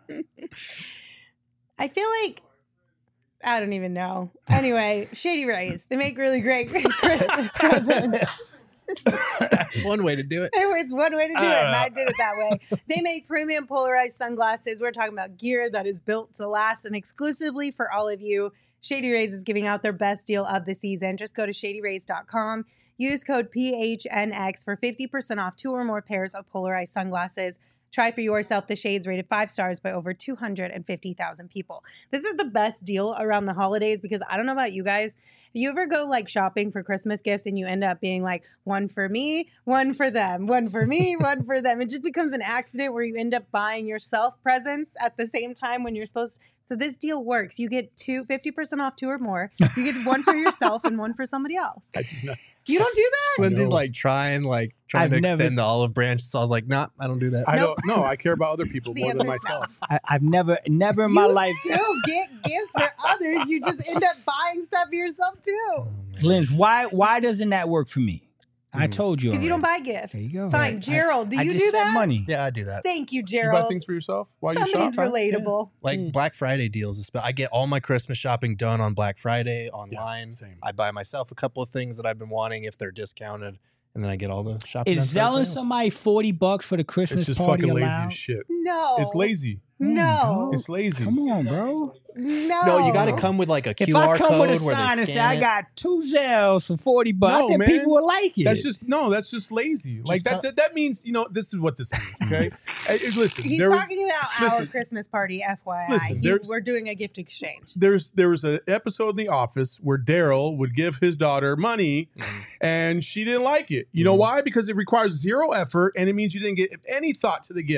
S2: I feel like I don't even know. Anyway, Shady Rays. They make really great Christmas presents.
S3: That's one way to do it.
S2: It's one way to do it, and I did it that way. They make premium polarized sunglasses. We're talking about gear that is built to last, and exclusively for all of you, Shady Rays is giving out their best deal of the season. Just go to shady rays dot com. Use code P H N X for fifty percent off two or more pairs of polarized sunglasses. Try for yourself the shades rated five stars by over two hundred fifty thousand people. This is the best deal around the holidays because I don't know about you guys. If you ever go like shopping for Christmas gifts and you end up being like one for me, one for them, one for me, one for them, it just becomes an accident where you end up buying yourself presents at the same time when you're supposed to. So this deal works. You get two, fifty percent off two or more. You get one for yourself and one for somebody else.
S4: I do not.
S2: You don't do that?
S3: Lindsay's
S4: No.
S3: like trying, like trying
S5: I've
S3: to
S5: never-
S3: extend the olive branch. So I was like, nah, I don't do that.
S4: I
S2: Nope.
S4: don't. No, I care about other people
S2: The
S4: more than
S2: answer's no.
S4: myself.
S5: I, I've never, never in my
S2: you
S5: life.
S2: still get gifts for others. You just end up buying stuff for yourself too.
S5: Lynch, why, why doesn't that work for me? I
S3: Mm.
S5: told you.
S2: Because you don't
S5: already.
S2: buy gifts.
S5: There you go.
S2: Fine.
S5: Right.
S2: Gerald, do
S5: I
S2: you
S5: just
S2: do
S5: said
S2: that?
S5: money.
S3: Yeah, I do that.
S2: Thank you,
S4: You buy
S2: Gerald.
S4: things for yourself while you
S2: Somebody's
S4: shop.
S2: relatable.
S3: Like
S5: Mm.
S3: Black Friday deals. espe- I get all my Christmas shopping done on Black Friday online.
S4: Yes, same.
S3: I buy myself a couple of things that I've been wanting if they're discounted, and then I get all the shopping. done
S5: Is
S3: for everything
S5: selling
S3: else.
S5: somebody forty bucks for the Christmas
S4: It's just
S5: party
S4: fucking lazy
S5: allowed?
S4: as shit.
S2: No.
S4: It's lazy.
S2: No.
S4: It's lazy.
S5: Come on, bro.
S2: No.
S3: No, you got to come with like a
S5: If
S3: Q R
S5: I come
S3: code
S5: with a
S3: where
S5: sign
S3: they
S5: and say
S3: scan
S5: I
S3: it.
S5: got two Zels for forty bucks,
S4: No,
S5: I think
S4: man.
S5: people will like it.
S4: That's just no. That's just lazy. like that,
S3: cut-
S4: that. That means you know. This is what this means. Okay. Hey, hey, listen.
S2: He's
S4: there was-
S2: talking about our
S4: listen.
S2: Christmas party, F Y I.
S4: Listen,
S2: He-
S4: there's-
S2: we're doing a gift exchange.
S4: There's there was an episode in The Office where Daryl would give his daughter money,
S3: Mhm.
S4: and she didn't like it. You know
S3: Mhm.
S4: why? Because it requires zero effort, and it means you didn't get any thought to the gift.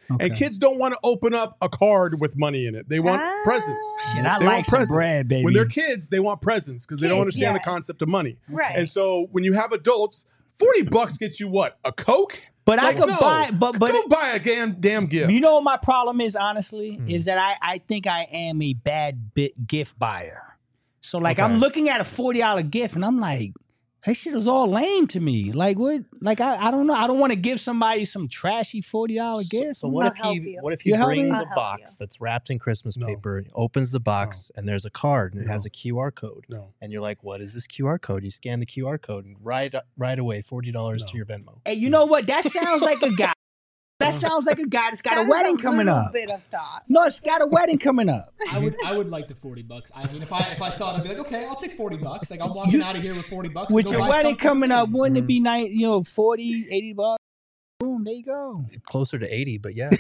S5: Okay.
S4: And kids don't want to open up a card with money in it. They want
S2: Ah.
S4: presents.
S5: Shit, I
S4: They
S5: like
S4: want
S5: some
S4: presents.
S5: bread, baby.
S4: When they're kids, they want presents because they don't
S2: Kids,
S4: understand
S2: yes.
S4: the concept of money.
S2: Right.
S4: And so when you have adults, forty bucks gets you what? A Coke?
S5: But
S4: Like,
S5: I could
S4: no.
S5: buy, but but
S4: Go buy a damn, damn gift.
S5: you know what my problem is, honestly,
S3: Hmm.
S5: is that I I think I am a bad bit gift buyer. So like
S4: Okay.
S5: I'm looking at a forty dollar gift and I'm like, that shit is all lame to me. Like what? Like I, I don't know. I don't want to give somebody some trashy forty dollar
S3: So,
S5: gift.
S3: so what
S2: I'll
S3: if
S2: help
S3: he
S2: you.
S3: what if he
S5: You help me?
S3: brings
S2: I'll
S3: a
S2: help
S3: box
S2: you.
S3: that's wrapped in Christmas
S4: No.
S3: paper, opens the box, and there's a card and it has
S4: No.
S3: a Q R code.
S4: No.
S3: And you're like, what is this Q R code? You scan the Q R code and right right away, forty dollars to
S4: No.
S3: your Venmo.
S5: Hey, you know what? That sounds like a guy. That sounds like a guy that's got
S2: That
S5: a
S2: is
S5: wedding coming
S2: little
S5: up.
S2: Bit of thought.
S5: No, it's got a wedding coming up.
S11: I would I would like the forty bucks. I mean, if I if I saw it, I'd be like, okay, I'll take forty bucks. Like I'm walking out of here with forty bucks. to
S5: With
S11: go
S5: your
S11: buy
S5: wedding
S11: something for
S5: coming
S11: me.
S5: up, wouldn't it be nice? You know, forty, eighty bucks. Boom, there you go.
S3: Closer to eighty, but yeah.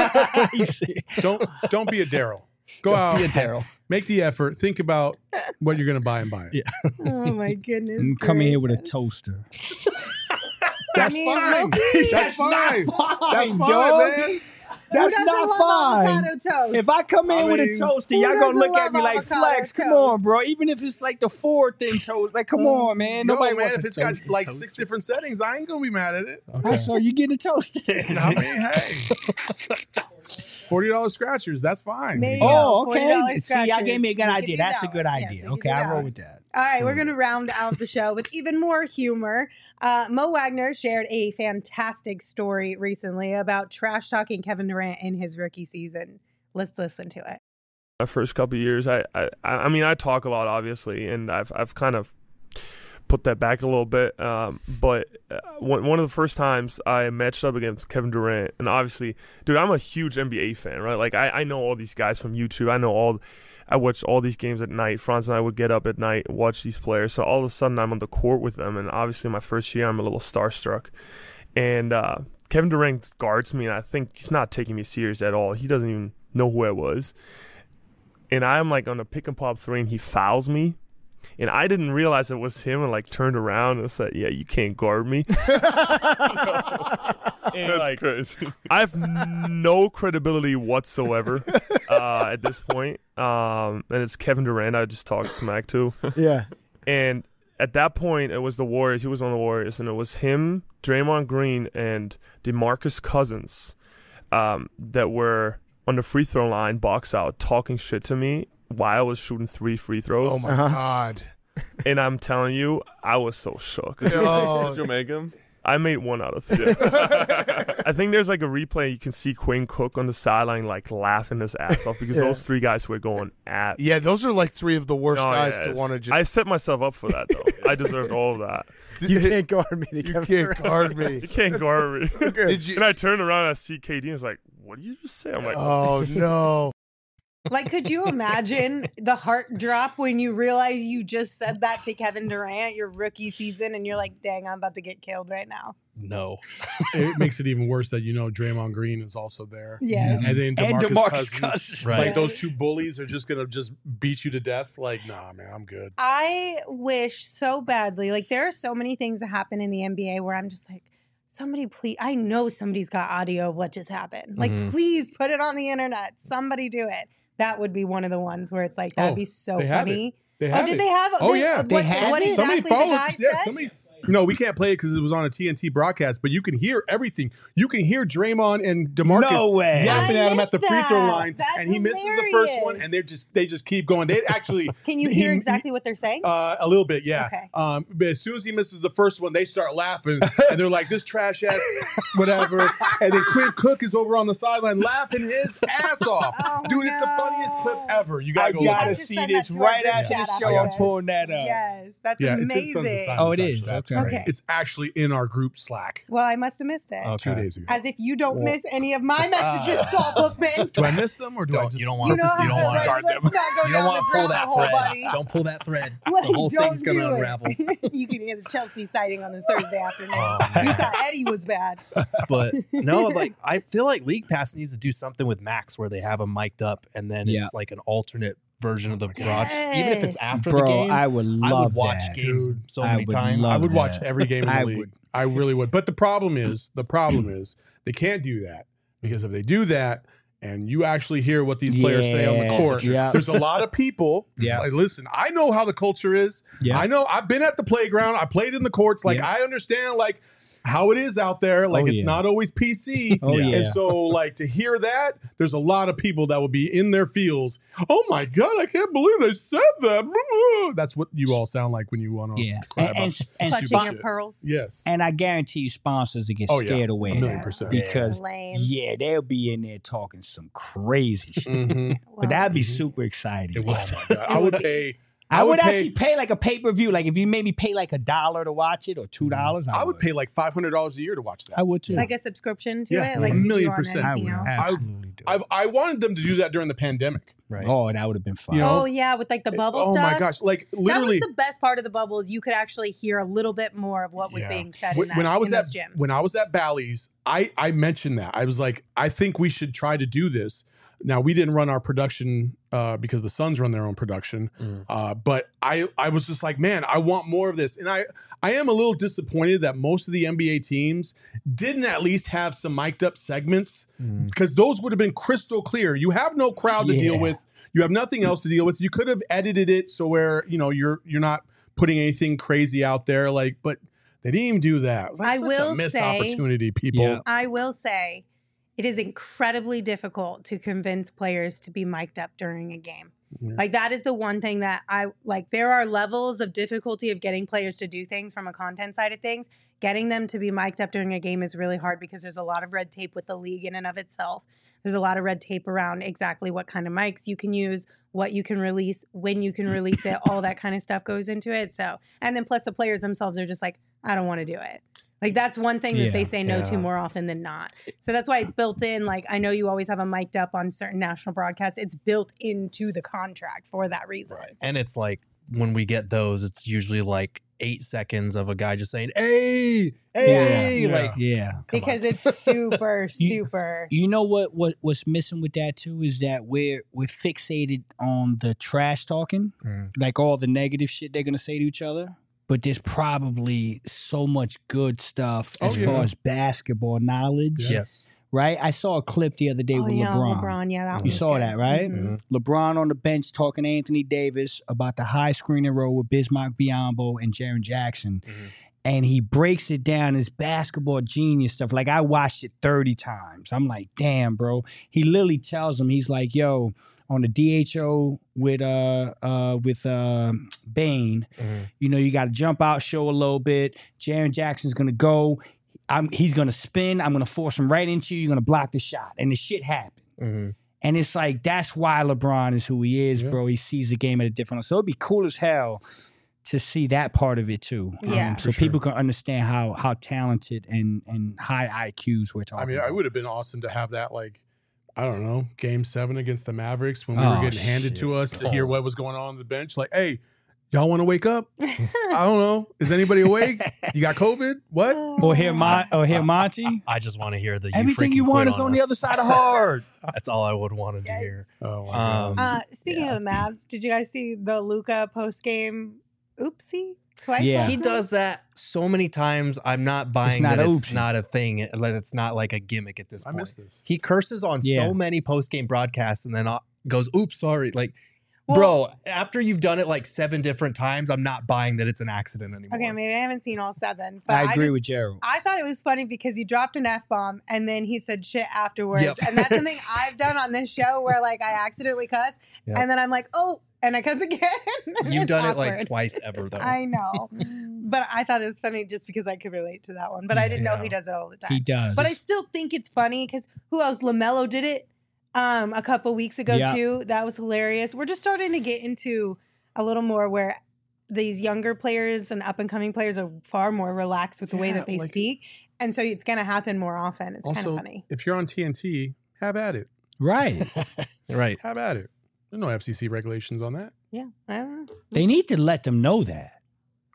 S4: Don't don't be a Daryl. Go
S3: Don't
S4: out.
S3: be a Daryl.
S4: Make the effort. Think about what you're going to buy and buy it.
S3: Yeah.
S2: Oh my goodness.
S5: And come in here with a
S2: gracious.
S5: toaster.
S4: That's
S2: I mean,
S4: fine.
S2: low-key,
S4: That's fine.
S5: Fine,
S4: That's fine,
S5: dog.
S4: man.
S5: That's
S2: Who doesn't
S5: not
S2: love
S5: fine.
S2: avocado toast?
S5: If I come in
S4: I
S5: with a
S4: mean,
S5: toaster,
S2: who
S5: y'all gonna
S2: doesn't
S5: look at
S2: love
S5: me like,
S2: avocado
S5: Flex, come
S2: toast?
S5: on, bro. Even if it's like the fourth in toast, like, come on, man.
S4: No,
S5: Nobody
S4: man,
S5: wants
S4: if
S5: a
S4: it's got
S5: toaster.
S4: like six different settings, I ain't going to be mad at it.
S5: Oh, so you getting a toaster?
S4: I mean, hey. forty dollars scratchers, that's fine.
S2: There you
S5: Oh,
S2: go.
S5: okay.
S2: forty dollars
S5: See, y'all
S2: scratchers.
S5: gave me a good
S2: We can
S5: idea.
S2: do
S5: That's a
S2: that
S5: good
S2: one. Yes,
S5: idea.
S2: we can
S5: Okay,
S2: do
S5: I
S2: that
S5: roll
S2: one.
S5: with that.
S2: All right, we're going to round out the show with even more humor. Uh, Mo Wagner shared a fantastic story recently about trash talking Kevin Durant in his rookie season. Let's listen to it.
S12: My first couple of years, I, I, I mean, I talk a lot, obviously, and I've, I've kind of put that back a little bit. Um, but uh, one, one of the first times I matched up against Kevin Durant, and obviously, dude, I'm a huge N B A fan, right? Like, I, I know all these guys from YouTube. I know all, I watch all these games at night. Franz and I would get up at night and watch these players. So all of a sudden, I'm on the court with them, and obviously, my first year, I'm a little starstruck. And uh, Kevin Durant guards me, and I think he's not taking me serious at all. He doesn't even know who I was. And I'm like on a pick and pop three, and he fouls me. And I didn't realize it was him, and like turned around and said, "Yeah, you can't guard me." And,
S9: That's
S12: like,
S9: crazy.
S12: I have no credibility whatsoever uh, at this point. Um, and it's Kevin Durant I just talked smack to.
S5: Yeah.
S12: And at that point, it was the Warriors. He was on the Warriors, and it was him, Draymond Green, and DeMarcus Cousins um, that were on the free throw line, box out, talking shit to me while I was shooting three free throws.
S13: Oh my god!
S12: And I'm telling you, I was so shook.
S13: Oh.
S9: Did you make him?
S12: I made one out of three. I think there's like a replay. You can see Quinn Cook on the sideline like laughing his ass off because
S13: Yeah.
S12: those three guys were going at.
S13: Yeah, those are like three of the worst
S12: No,
S13: guys
S12: yeah,
S13: to
S12: it's-
S13: want to just.
S12: I set myself up for that though. I deserved all of that.
S13: You can't
S5: guard me.
S13: You can't guard me.
S12: You can't guard me.
S13: Did you?
S12: And I turned around and I see K D and was like, "What did you just say?" I'm like,
S13: Oh no!
S2: Like, could you imagine the heart drop when you realize you just said that to Kevin Durant your rookie season and you're like, dang, I'm about to get killed right now?
S3: No.
S4: It makes it even worse that you know Draymond Green is also there.
S2: Yes.
S4: And then
S5: And
S4: DeMarcus,
S5: DeMarcus
S4: Cousins.
S5: Cousins.
S3: Right.
S4: Like those two bullies are just going to just beat you to death. Like, nah, man, I'm good.
S2: I wish so badly. Like, there are so many things that happen in the N B A where I'm just like, somebody please, I know somebody's got audio of what just happened. Like,
S3: Mhm.
S2: please put it on the internet. Somebody do it. That would be one of the ones where it's like, that'd
S4: Oh,
S2: be so
S4: they have
S2: funny.
S4: it. They
S2: Oh,
S4: have
S2: did
S4: it.
S2: they have?
S4: Oh,
S2: they-
S4: yeah.
S2: What,
S5: They have
S2: what
S5: it?
S2: exactly
S4: Somebody
S2: the
S4: followed.
S2: guy
S4: Yeah,
S2: said?
S4: somebody. No, we can't play it because it was on a T N T broadcast, but you can hear everything. You can hear Draymond and DeMarcus
S5: No way.
S4: yapping
S2: I
S4: at him at the
S2: missed
S4: free throw
S2: that.
S4: line,
S2: That's
S4: and he misses the first one,
S2: hilarious.
S4: and they just they just keep going. They actually
S2: Can you
S4: he-
S2: hear
S4: he-
S2: exactly what they're saying?
S4: Uh, a little bit, yeah.
S2: Okay.
S4: Um, but as soon as he misses the first one, they start laughing, and they're like, "This trash ass, whatever." And then Quinn Cook is over on the sideline laughing his ass off.
S2: Oh,
S4: Dude, it's the
S2: no.
S4: funniest clip ever. You
S5: I
S4: gotta go.
S2: You
S4: look
S5: gotta
S2: have
S4: at
S2: to
S4: it.
S5: see
S2: send
S5: this
S2: that to our
S5: right
S2: group
S5: after the
S2: chat
S5: show.
S2: after
S5: I'm
S2: this.
S5: pulling that up.
S2: Yes, that's
S4: Yeah, it's in Sons of
S2: amazing.
S4: Silence,
S5: Oh, it is?
S4: actually. That's
S5: Okay.
S4: great.
S2: Okay.
S4: It's actually in our group Slack
S2: Well, I must have missed it.
S4: two days ago.
S2: As if you don't
S4: Well-
S2: miss any of my messages,
S3: Ah.
S2: Saul Bookman.
S4: Do I miss them or do I
S3: Don't,
S4: just
S3: you don't want
S2: You know
S3: purposely
S2: how
S3: don't
S2: to,
S3: want
S2: like,
S3: guard them.
S2: let's not go
S3: You
S2: down
S3: don't want
S2: this
S3: to pull
S2: rabbit
S3: that
S2: hole,
S3: thread.
S2: buddy.
S3: Don't pull that thread.
S2: Like,
S3: The whole
S2: don't
S3: thing's gonna
S2: do it.
S3: unravel.
S2: You can get a Chelsea sighting on this Thursday afternoon.
S3: Oh,
S2: You
S3: man.
S2: thought Eddie was bad.
S3: But no, like I feel like League Pass needs to do something with Max where they have them mic'd up and then
S5: Yeah.
S3: it's like an alternate version of the broad. Even if it's
S2: Yes.
S3: after
S5: Bro,
S3: the game,
S5: I would
S3: I
S5: love
S3: would watch
S5: that.
S3: games
S4: Dude,
S3: so
S5: I
S3: many
S5: would
S3: times.
S4: I
S5: love
S4: would watch
S5: that.
S4: every game in the
S5: I
S4: league.
S5: would.
S4: I really would. But the problem is, the problem is they can't do that Because if they do that, and you actually hear what these players say on the
S5: Yes,
S4: court,
S5: yeah.
S4: there's a lot of people.
S5: Yeah.
S4: Like, listen, I know how the culture is.
S5: Yeah.
S4: I know I've been at the playground. I played in the courts. Like,
S5: Yeah.
S4: I understand, like, how it is out there. Like,
S5: Oh,
S4: it's
S5: yeah.
S4: not always P C.
S5: Oh, yeah.
S4: And so, like, to hear that, there's a lot of people that will be in their fields. Oh, my God, I can't believe they said that. That's what you all sound like when you want to
S5: Yeah.
S4: cry
S5: And,
S4: about
S5: and, and
S2: Clutching
S4: stupid
S2: your
S4: shit.
S2: pearls.
S4: Yes.
S5: And I guarantee you sponsors will get
S4: Oh, yeah.
S5: scared away.
S4: A
S5: of
S4: million
S5: that
S4: percent.
S5: Because,
S2: Lame.
S5: yeah, they'll be in there talking some crazy shit.
S4: Mhm.
S5: But that'd be super exciting.
S4: Oh, my God. I would pay.
S5: I, would,
S4: pay-
S5: actually pay like a pay per view. Like if you made me pay like a dollar to watch it or two dollars,
S4: I would pay like five hundred dollars a year to watch that.
S5: I would too.
S2: Like a subscription to
S4: Yeah,
S2: it, like
S4: a
S2: you do
S4: million
S2: on
S4: percent.
S2: anything
S5: I would
S2: else.
S5: absolutely do.
S4: I've, I wanted them to do that during the pandemic.
S3: Right.
S5: Oh, that would have been fun.
S4: You know?
S2: Oh yeah, with like the bubble
S4: Oh
S2: stuff.
S4: my gosh! Like literally,
S2: that was the best part of the bubble is you could actually hear a little bit more of what was
S4: Yeah.
S2: being said
S4: when,
S2: in, that,
S4: when I was
S2: in
S4: at
S2: those gyms.
S4: when I was at Bally's, I I mentioned that I was like, I think we should try to do this. Now we didn't run our production uh, because the Suns run their own production,
S3: Mm.
S4: uh, but I I was just like, man, I want more of this, and I I am a little disappointed that most of the N B A teams didn't at least have some mic'd up segments
S3: Mm.
S4: because those would have been crystal clear. You have no crowd to deal
S5: Yeah.
S4: with. You have nothing else to deal with. You could have edited it so where you know you're you're not putting anything crazy out there. Like, but they didn't even do that. It was like
S2: I
S4: such
S2: will
S4: a missed
S2: say-
S4: opportunity, people.
S5: Yeah.
S2: I will say, it is incredibly difficult to convince players to be mic'd up during a game.
S4: Yeah.
S2: Like that is the one thing that I like. There are levels of difficulty of getting players to do things from a content side of things. Getting them to be mic'd up during a game is really hard because there's a lot of red tape with the league in and of itself. There's a lot of red tape around exactly what kind of mics you can use, what you can release, when you can release it, all that kind of stuff goes into it. So, and then plus the players themselves are just like, I don't want to do it. Like that's one thing that they
S5: Yeah,
S2: say no to
S3: yeah.
S2: more often than not. So that's why it's built in. Like I know you always have a mic'd up on certain national broadcasts. It's built into the contract for that reason.
S3: And it's like when we get those, it's usually like eight seconds of a guy just saying, "Hey, hey!"
S4: Yeah.
S3: Like,
S5: Yeah.
S2: Because it's super, super.
S5: You know what? What what's missing with that too is that we're we're fixated on the trash talking,
S3: Mm.
S5: like all the negative shit they're gonna say to each other. But there's probably so much good stuff
S4: Oh,
S5: as
S4: yeah.
S5: far as basketball knowledge,
S3: yes.
S5: right? I saw a clip the other day
S2: Oh
S5: with
S2: yeah,
S5: LeBron.
S2: LeBron. Yeah, that one
S5: You
S2: was
S5: saw
S2: good.
S5: that, right?
S2: Mhm.
S5: LeBron on the bench talking to Anthony Davis about the high screening role with Bismarck Biyombo and Jaren Jackson.
S3: Mhm.
S5: And he breaks it down as basketball genius stuff. Like I watched it thirty times. I'm like, damn, bro. He literally tells him, he's like, yo, on the D H O with uh uh with uh Bane,
S3: Mhm.
S5: you know, you gotta jump out, show a little bit. Jaren Jackson's gonna go. I'm he's gonna spin. I'm gonna force him right into you. You're gonna block the shot. And the shit happened.
S3: Mhm.
S5: And it's like, that's why LeBron is who he is,
S4: Yeah.
S5: bro. He sees the game at a different level. So it'd be cool as hell to see that part of it too. Um,
S2: Yeah.
S5: so
S4: For sure.
S5: people can understand how how talented and and high I Qs we're talking
S4: I mean,
S5: about.
S4: it would have been awesome to have that, like, I don't know, game seven against the Mavericks when we
S5: Oh,
S4: were getting handed to
S3: shit.
S4: us to hear
S3: Oh.
S4: what was going on on the bench. Like, hey, y'all want to wake up? I don't know. Is anybody awake? You got COVID? What?
S5: Or hear Mon- or hear Monty.
S3: I just want to hear the
S5: Everything you
S3: freaking
S5: want
S3: quit
S5: is on the
S3: us.
S5: other side of hard.
S3: That's all I would want to hear.
S4: Oh, my God.
S3: Um,
S2: Uh, speaking
S3: Yeah.
S2: of the Mavs, did you guys see the Luka post game? Oopsie, twice.
S5: Yeah.
S2: last
S3: He
S2: night?
S3: does that so many times. I'm not buying
S5: not
S3: that
S5: a
S3: it's
S5: oopsie.
S3: not a thing. That it's not like a gimmick at this
S4: I
S3: point.
S4: missed this.
S3: He curses on
S5: Yeah.
S3: so many post game broadcasts and then uh, goes, "Oops, sorry." Like,
S2: Well-
S3: bro, after you've done it like seven different times, I'm not buying that it's an accident anymore.
S2: Okay, maybe I haven't seen all seven, but
S5: I
S2: I,
S5: agree
S2: just,
S5: with Gerald.
S2: I thought it was funny because he dropped an F bomb and then he said shit afterwards.
S3: Yep.
S2: And that's something I've done on this show where like I accidentally cuss
S3: Yep.
S2: and then I'm like, oh, and I cuss again.
S3: You've
S2: It's
S3: done it like
S2: awkward.
S3: twice ever though.
S2: I know. But I thought it was funny just because I could relate to that one. But I didn't know
S3: Yeah.
S2: he does it all the time.
S5: He does.
S2: But I still think it's funny because who else? LaMelo did it um, a couple weeks ago
S5: Yeah.
S2: too. That was hilarious. We're just starting to get into a little more where these younger players and up and coming players are far more relaxed with the way
S4: Yeah,
S2: that they
S4: like-
S2: speak. And so it's going to happen more often. It's kind
S4: Also,
S2: of funny.
S4: if you're on T N T, have at it.
S5: right.
S3: right.
S4: Have at it. There's no F C C regulations on that.
S2: Yeah. I don't know.
S5: They need to let them know that.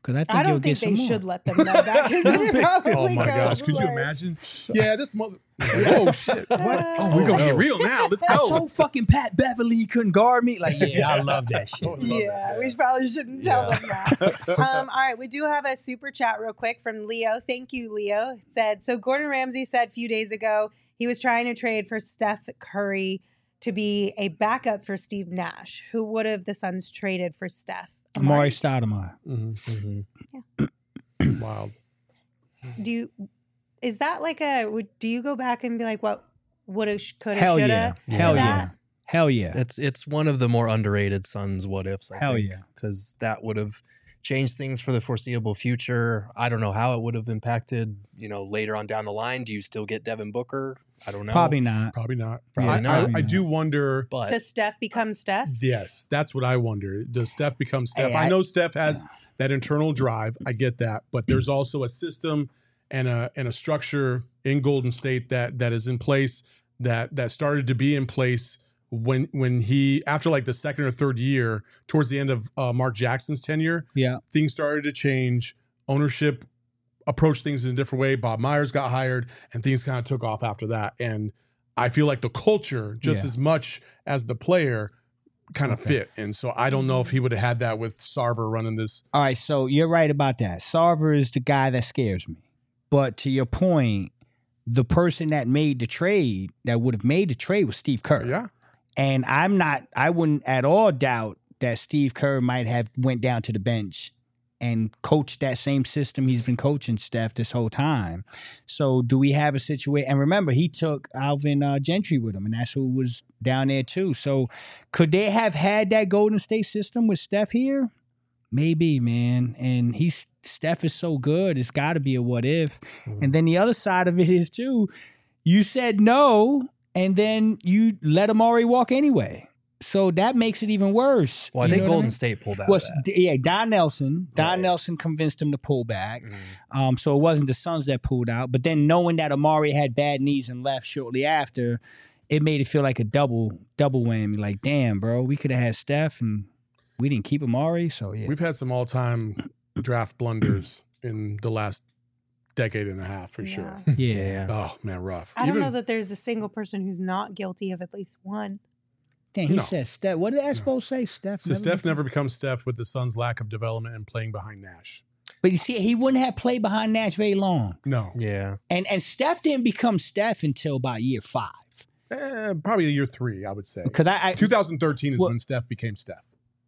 S5: because I think
S2: I
S5: you'll
S2: don't think
S5: get
S2: they
S5: some more.
S2: should let them know that because then it probably
S4: Oh my
S2: goes
S4: gosh, could you
S2: worse.
S4: imagine? Yeah, this mother. Oh shit! What? Oh, we're gonna get real now. Let's
S5: I
S4: go.
S5: told fucking Pat Beverly he couldn't guard me. Like, yeah, I love that shit.
S2: Yeah, we probably shouldn't tell them that. um, all right, we do have a super chat real quick from Leo. Thank you, Leo. It said, so Gordon Ramsay said a few days ago he was trying to trade for Steph Curry to be a backup for Steve Nash. Who would have the Suns traded for Steph?
S5: Amari Stoudemire.
S4: Mm-hmm.
S2: Yeah.
S4: Wild.
S2: Do you, is that like a, would, do you go back and be like, what woulda, coulda,
S5: Hell
S2: shoulda?
S5: yeah.
S2: to
S5: Hell
S2: that?
S5: yeah. Hell yeah.
S3: It's it's one of the more underrated Suns what ifs. I
S5: Hell
S3: think,
S5: yeah.
S3: because that would have changed things for the foreseeable future. I don't know how it would have impacted. You know, later on down the line, do you still get Devin Booker? I don't know.
S5: Probably not.
S4: Probably not.
S3: Probably
S4: I,
S3: not.
S4: I, I do wonder.
S3: But
S2: Does Steph become Steph?
S4: Yes, that's what I wonder. Does Steph become Steph?
S5: Hey,
S4: I,
S5: I-
S4: know Steph has that internal drive. I get that, but there's also a system and a and a structure in Golden State that that is in place that that started to be in place when when he after like the second or third year towards the end of uh, Mark Jackson's tenure.
S5: Yeah.
S4: Things started to change. Ownership approached things in a different way. Bob Myers got hired, and things kind of took off after that. And I feel like the culture, just
S5: Yeah.
S4: as much as the player, kind of
S5: Okay.
S4: fit. And so I don't know if he would have had that with Sarver running this.
S5: All right, so you're right about that. Sarver is the guy that scares me. But to your point, the person that made the trade, that would have made the trade was Steve Kerr.
S4: Yeah.
S5: And I'm not, I wouldn't at all doubt that Steve Kerr might have went down to the bench and coached that same system he's been coaching Steph this whole time. So do we have a situation? And remember, he took Alvin uh, Gentry with him, and that's who was down there too. So could they have had that Golden State system with Steph here? Maybe, man. And he's Steph is so good. It's got to be a what if.
S3: Mm-hmm.
S5: And then the other side of it is too, you said no, and then you let Amari walk anyway. So that makes it even worse.
S3: well, I
S5: You
S3: think
S5: know what
S3: Golden
S5: mean?
S3: State pulled out.
S5: Well,
S3: of that.
S5: d- yeah, Don Nelson. Don
S3: Right.
S5: Nelson convinced him to pull back.
S3: Mhm.
S5: Um, so it wasn't the Suns that pulled out. But then knowing that Amari had bad knees and left shortly after, it made it feel like a double double whammy. Like, damn, bro, we could have had Steph and we didn't keep Amari. So yeah,
S4: We've had some all time draft blunders in the last decade and a half for sure.
S5: yeah.
S4: Oh, man, rough.
S2: I don't
S4: Even-
S2: know that there's a single person who's not guilty of at least one.
S5: Damn, he
S4: No.
S5: said Steph. What did Espo say? Steph.
S4: So
S5: never
S4: Steph
S5: became-
S4: never becomes Steph with the Suns' lack of development and playing behind Nash.
S5: But you see, he wouldn't have played behind Nash very long.
S4: No.
S3: Yeah.
S5: And and Steph didn't become Steph until about year five.
S4: Eh, probably year three, I would say.
S5: Because I, I
S4: twenty thirteen is
S5: Well-
S4: when Steph became Steph.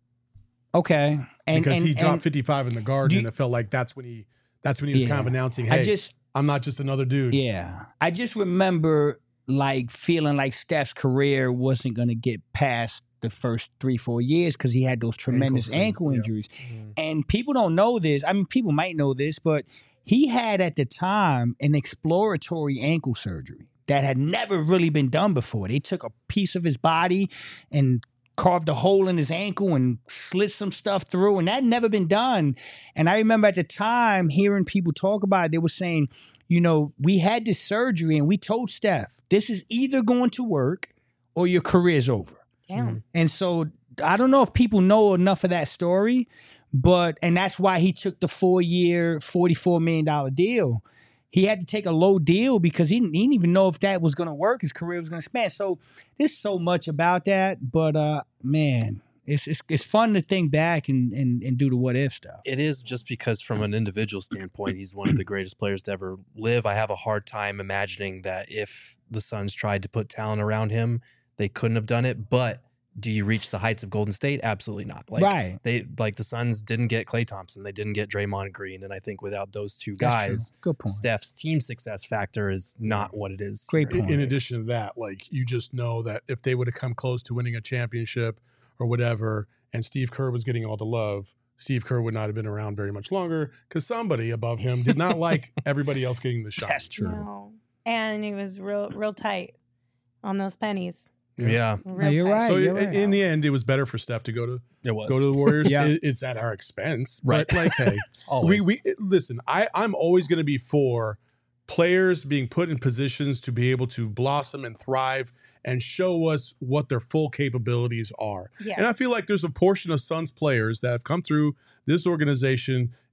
S5: okay, and
S4: because
S5: and,
S4: he dropped
S5: and
S4: fifty-five in the garden,
S5: do you-
S4: and it felt like that's when he that's when he was kind of
S5: Yeah.
S4: announcing, "Hey,
S5: I just
S4: I'm not just another dude."
S5: yeah, I just remember like feeling like Steph's career wasn't gonna get past the first three four years because he had those tremendous
S4: Ankles and-
S5: ankle
S4: yeah.
S5: injuries, and people don't know this. I mean, people might know this, but he had at the time an exploratory ankle surgery that had never really been done before. They took a piece of his body and carved a hole in his ankle and slit some stuff through, and that had never been done. And I remember at the time hearing people talk about it, they were saying, you know, we had this surgery and we told Steph, this is either going to work or your career's over.
S2: Damn.
S5: And so I don't know if people know enough of that story, but and that's why he took the four-year, forty-four million dollars deal. He had to take a low deal because he didn't, he didn't even know if that was going to work. His career was going to expand. So there's so much about that, but uh, man, it's it's it's fun to think back and and, and do the what if stuff.
S3: It is just because from an individual standpoint, he's one of the greatest players to ever live. I have a hard time imagining that if the Suns tried to put talent around him, they couldn't have done it. But do you reach the heights of Golden State? Absolutely not. Like
S5: Right.
S3: they like the Suns didn't get Klay Thompson, they didn't get Draymond Green, and I think without those two
S5: That's true.
S3: guys,
S5: Good point.
S3: Steph's team success factor is not what it is.
S5: Great
S3: here.
S4: In, in addition to that, like you just know that if they would have come close to winning a championship or whatever, and Steve Kerr was getting all the love, Steve Kerr would not have been around very much longer because somebody above him did not like everybody else getting the shot.
S5: That's true.
S2: No. And he was real, real tight on those pennies.
S3: Yeah,
S2: Real
S5: No, you're
S2: tight.
S5: right.
S4: So
S5: you're
S4: in,
S5: right.
S4: in the end, it was better for Steph to go to
S3: it was.
S4: go to the Warriors.
S5: Yeah.
S4: It- it's at our expense,
S3: Right.
S4: But like, hey, we
S3: Always.
S4: we listen. I I'm always going to be for players being put in positions to be able to blossom and thrive and show us what their full capabilities are.
S2: Yes.
S4: And I feel like there's a portion of Suns players that have come through this organization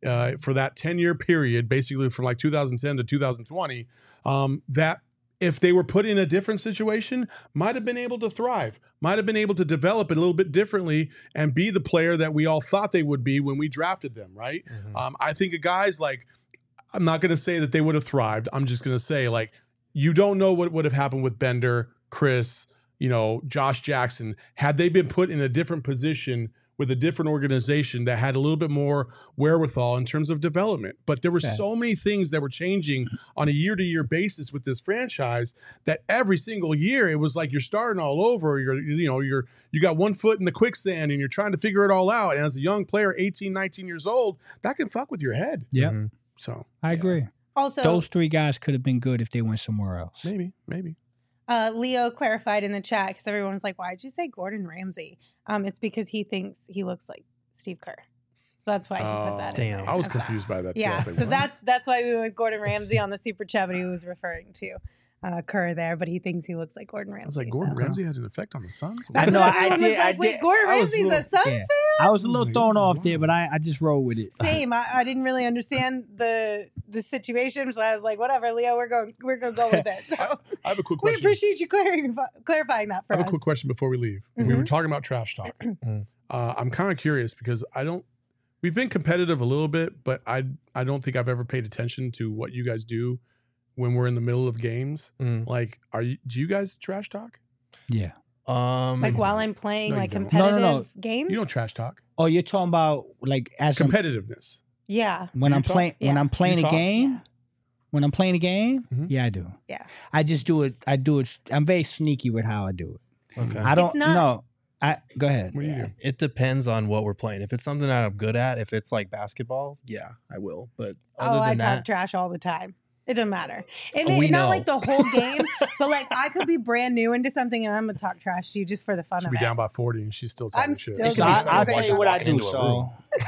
S4: uh, for that ten year period, basically from like two thousand ten to two thousand twenty, um, that if they were put in a different situation, might have been able to thrive, might have been able to develop it a little bit differently and be the player that we all thought they would be when we drafted them, right? Mm-hmm. Um, I think of guys like, I'm not going to say that they would have thrived. I'm just going to say, like, you don't know what would have happened with Bender, Chris, you know, Josh Jackson, had they been put in a different position with a different organization that had a little bit more wherewithal in terms of development. But there were okay. so many things that were changing on a year-to-year basis with this franchise that every single year it was like you're starting all over. You're, you know, you're you got one foot in the quicksand and you're trying to figure it all out. And as a young player, eighteen, nineteen years old, that can fuck with your head.
S5: Yeah.
S4: Mm-hmm. So
S5: I agree.
S2: Also,
S5: those three guys could have been good if they went somewhere else.
S4: Maybe, maybe.
S2: Uh, Leo clarified in the chat because everyone was like, "Why'd you say Gordon Ramsay?" Um, it's because he thinks he looks like Steve Kerr, so that's why he
S4: oh,
S2: put that.
S4: Damn,
S2: in
S4: I was confused by that. Too.
S2: Yeah,
S4: I was like,
S2: so
S4: what?
S2: that's that's why we went with Gordon Ramsay on the super chat, but he was referring to uh, Kerr there, but he thinks he looks like Gordon Ramsay.
S4: I was like, Gordon
S2: so.
S4: Ramsay has an effect on the Suns.
S2: That's
S5: I know.
S2: what
S5: I
S2: everyone
S5: did.
S2: was like,
S5: I
S2: Wait,
S5: did.
S2: Gordon
S5: I was
S2: Ramsay's
S5: little,
S2: a Suns
S5: yeah.
S2: fan.
S5: I was a little thrown off there, but I, I just rolled with it.
S2: Same. I, I didn't really understand the the situation, so I was like, whatever, Leo, we're going we're going to go with it. So
S4: I have a quick
S2: we
S4: question.
S2: appreciate you clarifying clarifying that for
S4: I have
S2: us.
S4: a quick question before we leave.
S2: Mm-hmm.
S4: We were talking about trash talk. uh, I'm kind of curious because I don't. We've been competitive a little bit, but I I don't think I've ever paid attention to what you guys do when we're in the middle of games.
S3: Mm.
S4: Like, are you? Do you guys trash talk?
S5: Yeah.
S3: Um,
S2: like while I'm playing
S4: no,
S2: like
S4: don't.
S2: competitive
S5: no, no, no.
S2: games.
S4: You don't trash talk.
S5: Oh, you're talking about like as
S4: competitiveness.
S2: Yeah.
S5: When
S4: you
S5: I'm playing,
S2: yeah.
S5: when I'm playing
S4: You
S5: a
S4: talk?
S5: game,
S2: Yeah.
S5: when I'm playing a game,
S4: Mhm.
S5: yeah, I do.
S2: Yeah.
S5: I just do it. I do it. I'm very sneaky with how I do it.
S3: Okay.
S5: I don't
S2: It's not-
S5: know. I go ahead.
S4: What do you do?
S3: It depends on what we're playing. If it's something that I'm good at, if it's like basketball, yeah, I will. But other
S2: Oh, I
S3: than
S2: talk
S3: that,
S2: trash all the time. It doesn't matter. It
S3: Oh,
S2: may
S3: we
S2: not
S3: know.
S2: like the whole game, but like I could be brand new into something and I'm gonna talk trash to you just for the fun
S4: She'll
S2: of
S4: be
S2: it.
S4: down by forty and she's still talking
S2: I'm
S4: shit.
S2: still
S5: So
S2: gonna
S5: I,
S2: be
S5: I'll
S2: saying
S5: tell you what I
S3: walk
S5: do,
S3: into a
S5: Saul.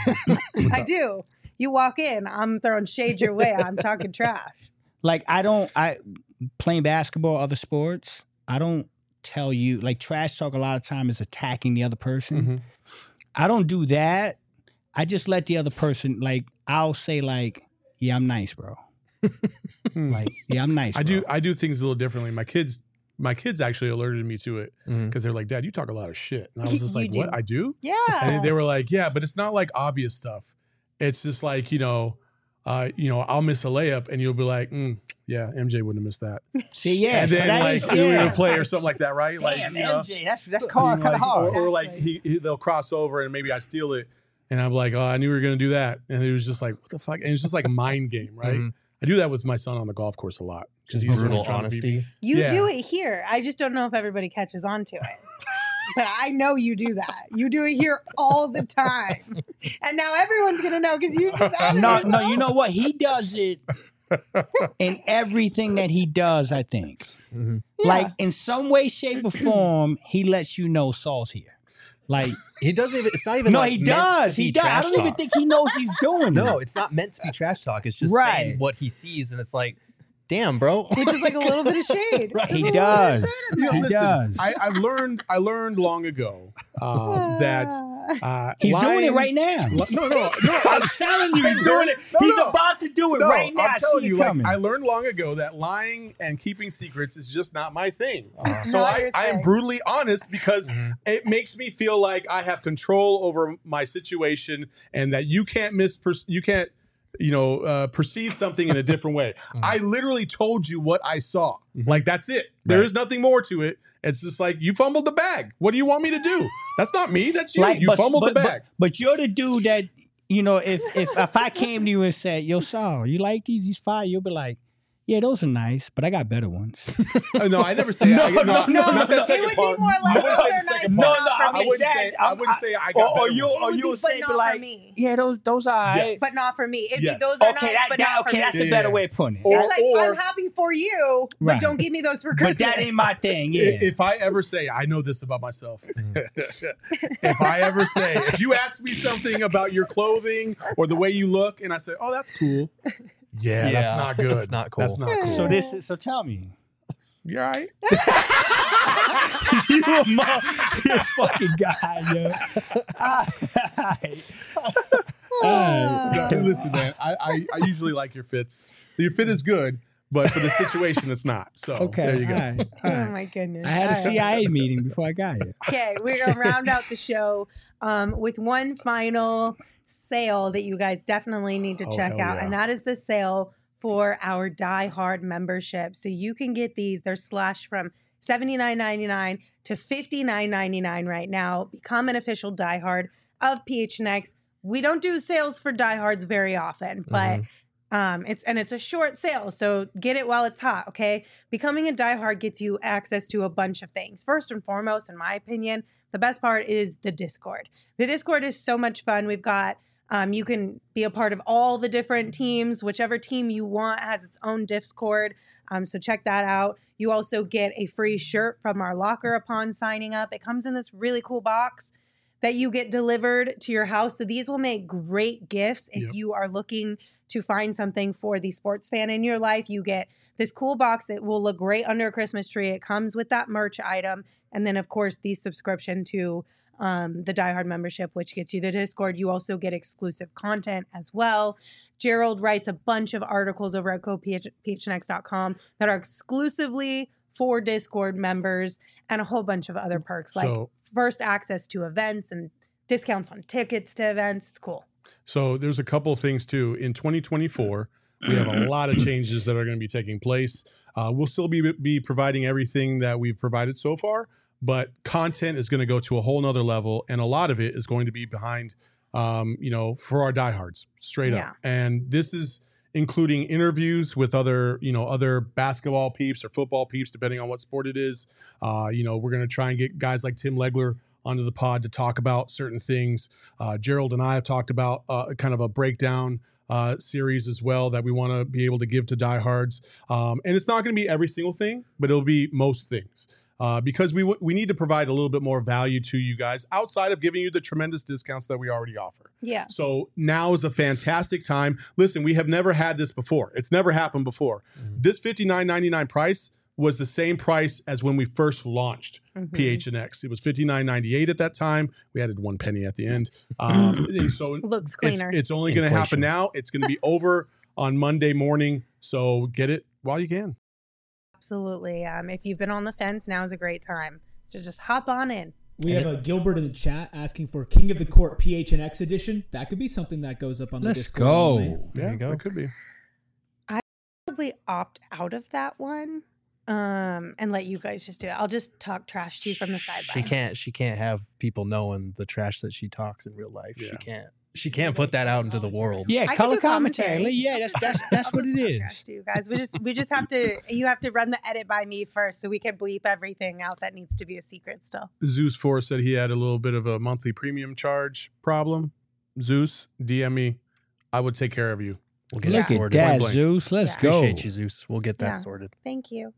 S2: I do. You walk in, I'm throwing shade your way. I'm talking trash.
S5: Like I don't. I playing basketball, other sports. I don't tell you like trash talk. A lot of time is attacking the other person.
S4: Mm-hmm.
S5: I don't do that. I just let the other person like. I'll say like, "Yeah, I'm nice, bro." Like, yeah, I'm nice.
S4: I
S5: bro.
S4: do. I do things a little differently. My kids. My kids actually alerted me to it because
S3: Mhm.
S4: they're like, "Dad, you talk a lot of shit," and I was just
S2: You
S4: like,
S2: do.
S4: "What? I do?"
S2: Yeah.
S4: And they were like, "Yeah, but it's not like obvious stuff. It's just like you know, uh, you know, I'll miss a layup, and you'll be like, mm, yeah, M J wouldn't have missed that."
S5: See, yeah,
S4: and
S5: so
S4: then
S5: that
S4: like
S5: is-
S4: you know,
S5: yeah.
S4: play or something like that, right? like
S5: Damn,
S4: you know,
S5: M J, that's that's
S4: you
S5: hard,
S4: know,
S5: kind of
S4: like,
S5: hard.
S4: Or, or like he, he they'll cross over and maybe I steal it, and I'm like, oh, I knew we were gonna do that, and it was just like, what the fuck? And it's just like a mind game, right?
S3: Mhm.
S4: I do that with my son on the golf course a lot.
S3: just
S4: he's
S3: brutal
S4: always trying to beat me.
S3: honesty.
S2: You
S4: Yeah.
S2: do it here. I just don't know if everybody catches on to it. But I know you do that. You do it here all the time. And now everyone's going to know because you just added
S5: No,
S2: it.
S5: no, you know what? He does it in everything that he does, I think.
S3: Mhm.
S2: Yeah.
S5: Like in some way, shape, or form, he lets you know Saul's here. Like
S3: He doesn't even. It's not even.
S5: no,
S3: like
S5: he
S3: meant to
S5: does.
S3: be
S5: He does. I
S3: trash
S5: don't even
S3: talk.
S5: think he knows he's doing
S3: No,
S5: it.
S3: it's not meant to be trash talk. It's just
S5: Right.
S3: saying what he sees, and it's like, damn, bro.
S2: Which is like a little bit of shade.
S3: Right.
S2: There's
S5: He
S2: a little bit of
S5: does.
S2: shade in
S4: You know,
S5: He
S2: there.
S4: listen,
S5: does.
S4: I, I've learned. I learned long ago um, that uh,
S5: He's doing it
S4: lying-
S5: right now.
S4: Li- No, no, no.
S5: I'm telling you, he's doing it.
S4: No,
S5: He's
S4: no.
S5: about to do it
S4: No,
S5: right now.
S4: I'm
S5: I
S4: telling
S5: see
S4: you,
S5: it
S4: like,
S5: coming.
S4: I learned long ago that lying and keeping secrets is just not my thing. So
S2: not
S4: I,
S2: your
S4: I am
S2: thing.
S4: brutally honest because it makes me feel like I have control over my situation and that you can't miss, you can't, you know, uh, perceive something in a different way. I literally told you what I saw. Like that's it. There is nothing more to it. It's just like you fumbled the bag. What do you want me to do? That's not me. That's you.
S5: Like,
S4: you
S5: but-
S4: fumbled
S5: but,
S4: the bag.
S5: But, but you're the dude that, you know, if if if I came to you and said, "Yo, Saul, you like these? These fire?" You'll be like, "Yeah, those are nice, but I got better ones."
S4: Uh, no, I never say.
S5: No,
S4: I,
S5: no, no,
S4: not that
S5: no.
S2: It
S4: second
S2: would
S4: part.
S2: be more like
S4: I wouldn't say
S2: those
S4: the
S2: are
S4: second
S2: nice,
S5: No,
S4: part.
S2: but
S5: no,
S2: not for
S5: I
S4: I
S2: me.
S5: wouldn't
S4: wouldn't
S5: say.
S4: say. I wouldn't say I got
S5: Or, or
S4: better
S5: you,
S4: ones.
S5: or
S2: It would
S5: you'll
S2: be,
S5: say,
S2: but
S5: be
S2: not
S5: like,
S2: for me.
S5: "Yeah, those those are
S4: Yes.
S5: nice."
S2: But not for me. It'd
S4: Yes.
S2: be those are
S5: Okay,
S2: nice,
S5: that,
S2: but
S5: that
S2: not for
S5: okay,
S2: me.
S5: that's a
S4: Yeah,
S5: better
S4: yeah.
S5: way of putting it.
S4: Or-
S2: It's like
S4: or-
S2: I'm happy for you, but
S5: Right.
S2: don't give me those for Christmas.
S5: But that ain't my thing.
S4: I-
S5: Yeah.
S4: If I ever say, I know this about myself. If I ever say, if you ask me something about your clothing or the way you look, and I say, oh, that's cool. Yeah, that's
S3: Yeah,
S4: not good.
S3: that's not cool.
S4: That's not cool.
S5: So this. is- So tell me.
S4: You all right?
S5: You a mo- this fucking guy, yo. Alright.
S4: Yeah, listen, man. I, I I usually like your fits. Your fit is good, but for the situation, it's not. So
S5: Okay,
S4: there you go.
S5: all right, all
S2: Oh
S5: right.
S2: my goodness.
S5: I had a
S2: All right.
S5: C I A meeting before I got here.
S2: Okay, we're gonna round out the show um, with one final sale that you guys definitely need to
S4: Oh,
S2: check
S4: hell
S2: out,
S4: yeah.
S2: and that is the sale for our Die Hard membership. So you can get these; they're slashed from seventy-nine ninety-nine to fifty-nine ninety-nine right now. Become an official Die Hard of P H N X. We don't do sales for Die Hards very often, but um, it's and it's a short sale, so get it while it's hot. Okay, becoming a Die Hard gets you access to a bunch of things. First and foremost, in my opinion, the best part is the Discord. The Discord is so much fun. We've got um, you can be a part of all the different teams. Whichever team you want has its own Discord. Um, so check that out. You also get a free shirt from our locker upon signing up. It comes in this really cool box that you get delivered to your house. So these will make great gifts if
S4: Yep.
S2: you are looking to find something for the sports fan in your life. You get this cool box that will look great under a Christmas tree. It comes with that merch item. And then, of course, the subscription to um, the Die Hard membership, which gets you the Discord. You also get exclusive content as well. Gerald writes a bunch of articles over at go P H N X dot com that are exclusively for Discord members and a whole bunch of other perks like
S4: So-
S2: first access to events and discounts on tickets to events. It's cool.
S4: So there's a couple of things too. In twenty twenty-four, we have a lot of changes that are going to be taking place. Uh, we'll still be be providing everything that we've provided so far, but content is going to go to a whole nother level, and a lot of it is going to be behind, um, you know, for our diehards, straight
S2: Yeah.
S4: up. And this is including interviews with other, you know, other basketball peeps or football peeps, depending on what sport it is. Uh, you know, we're going to try and get guys like Tim Legler onto the pod to talk about certain things. Uh, Gerald and I have talked about uh, kind of a breakdown uh, series as well that we want to be able to give to diehards. Um, and it's not going to be every single thing, but it'll be most things. Uh, because we w- we need to provide a little bit more value to you guys outside of giving you the tremendous discounts that we already offer.
S2: Yeah.
S4: So now is a fantastic time. Listen, we have never had this before. It's never happened before. This fifty-nine ninety-nine price was the same price as when we first launched
S2: Mhm.
S4: P H N X. It was fifty-nine ninety-eight at that time. We added one penny at the end. Um, and so
S2: Looks
S4: it's,
S2: cleaner.
S4: it's only going to happen
S3: Inflation.
S4: now. It's going to be over on Monday morning. So get it while you can.
S2: Absolutely. Um, if you've been on the fence, now is a great time to just hop on in.
S11: We have a Gilbert in the chat asking for King of the Court P H N X edition. That could be something that goes up on the
S5: Let's
S11: Discord.
S5: go.
S11: anyway.
S3: There
S4: Yeah,
S3: you go.
S4: it could be.
S2: Probably opt out of that one um, and let you guys just do it. I'll just talk trash to you from the sidelines.
S3: She can't. She can't have people knowing the trash that she talks in real life.
S4: Yeah.
S3: She can't. She can't put that out into the world.
S5: Yeah,
S2: I can
S5: color
S2: do
S5: commentary.
S2: commentary.
S5: Yeah, that's that's that's what it
S2: Talk
S5: is.
S2: trash to you guys. We just we just have to. You have to run the edit by me first, so we can bleep everything out that needs to be a secret still.
S4: Zeus four said he had a little bit of a monthly premium charge problem. Zeus, D M me. I would take care of you.
S3: We'll get
S5: Look
S3: it
S5: at
S3: sorted.
S5: that,
S4: Point blank.
S5: Zeus. Let's
S2: Yeah.
S5: go.
S3: Appreciate you, Zeus. We'll get that
S2: Yeah.
S3: sorted.
S2: Thank you.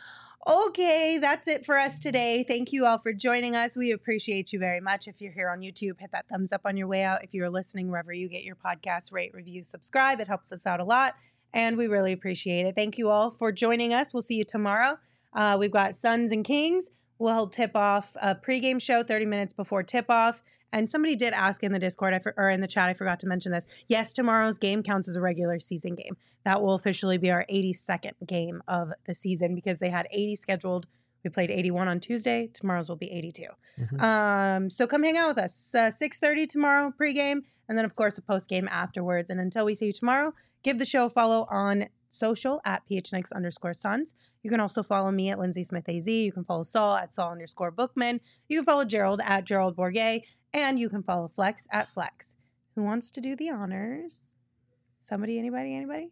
S2: Okay, that's it for us today. Thank you all for joining us. We appreciate you very much. If you're here on YouTube, hit that thumbs up on your way out. If you're listening wherever you get your podcast, rate, review, subscribe. It helps us out a lot, and we really appreciate it. Thank you all for joining us. We'll see you tomorrow. Uh, we've got Suns and Kings. We'll tip off a pregame show thirty minutes before tip off. And somebody did ask in the Discord I for, or in the chat, I forgot to mention this. Yes, tomorrow's game counts as a regular season game. That will officially be our eighty-second game of the season because they had eighty scheduled. We played eighty-one on Tuesday. Tomorrow's will be eighty-two.
S3: Mhm.
S2: Um, so come hang out with us. Uh, six thirty tomorrow pregame, and then of course a postgame afterwards. And until we see you tomorrow, give the show a follow on social at P H N X underscore Suns. You can also follow me at Lindsay Smith A Z. You can follow Saul at Saul underscore Bookman. You can follow Gerald at Gerald Bourget. And you can follow Flex at Flex. Who wants to do the honors? Somebody, anybody, anybody?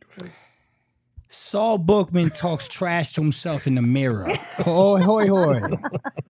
S5: Saul Bookman talks trash to himself in the mirror. Hoy, hoy, hoy.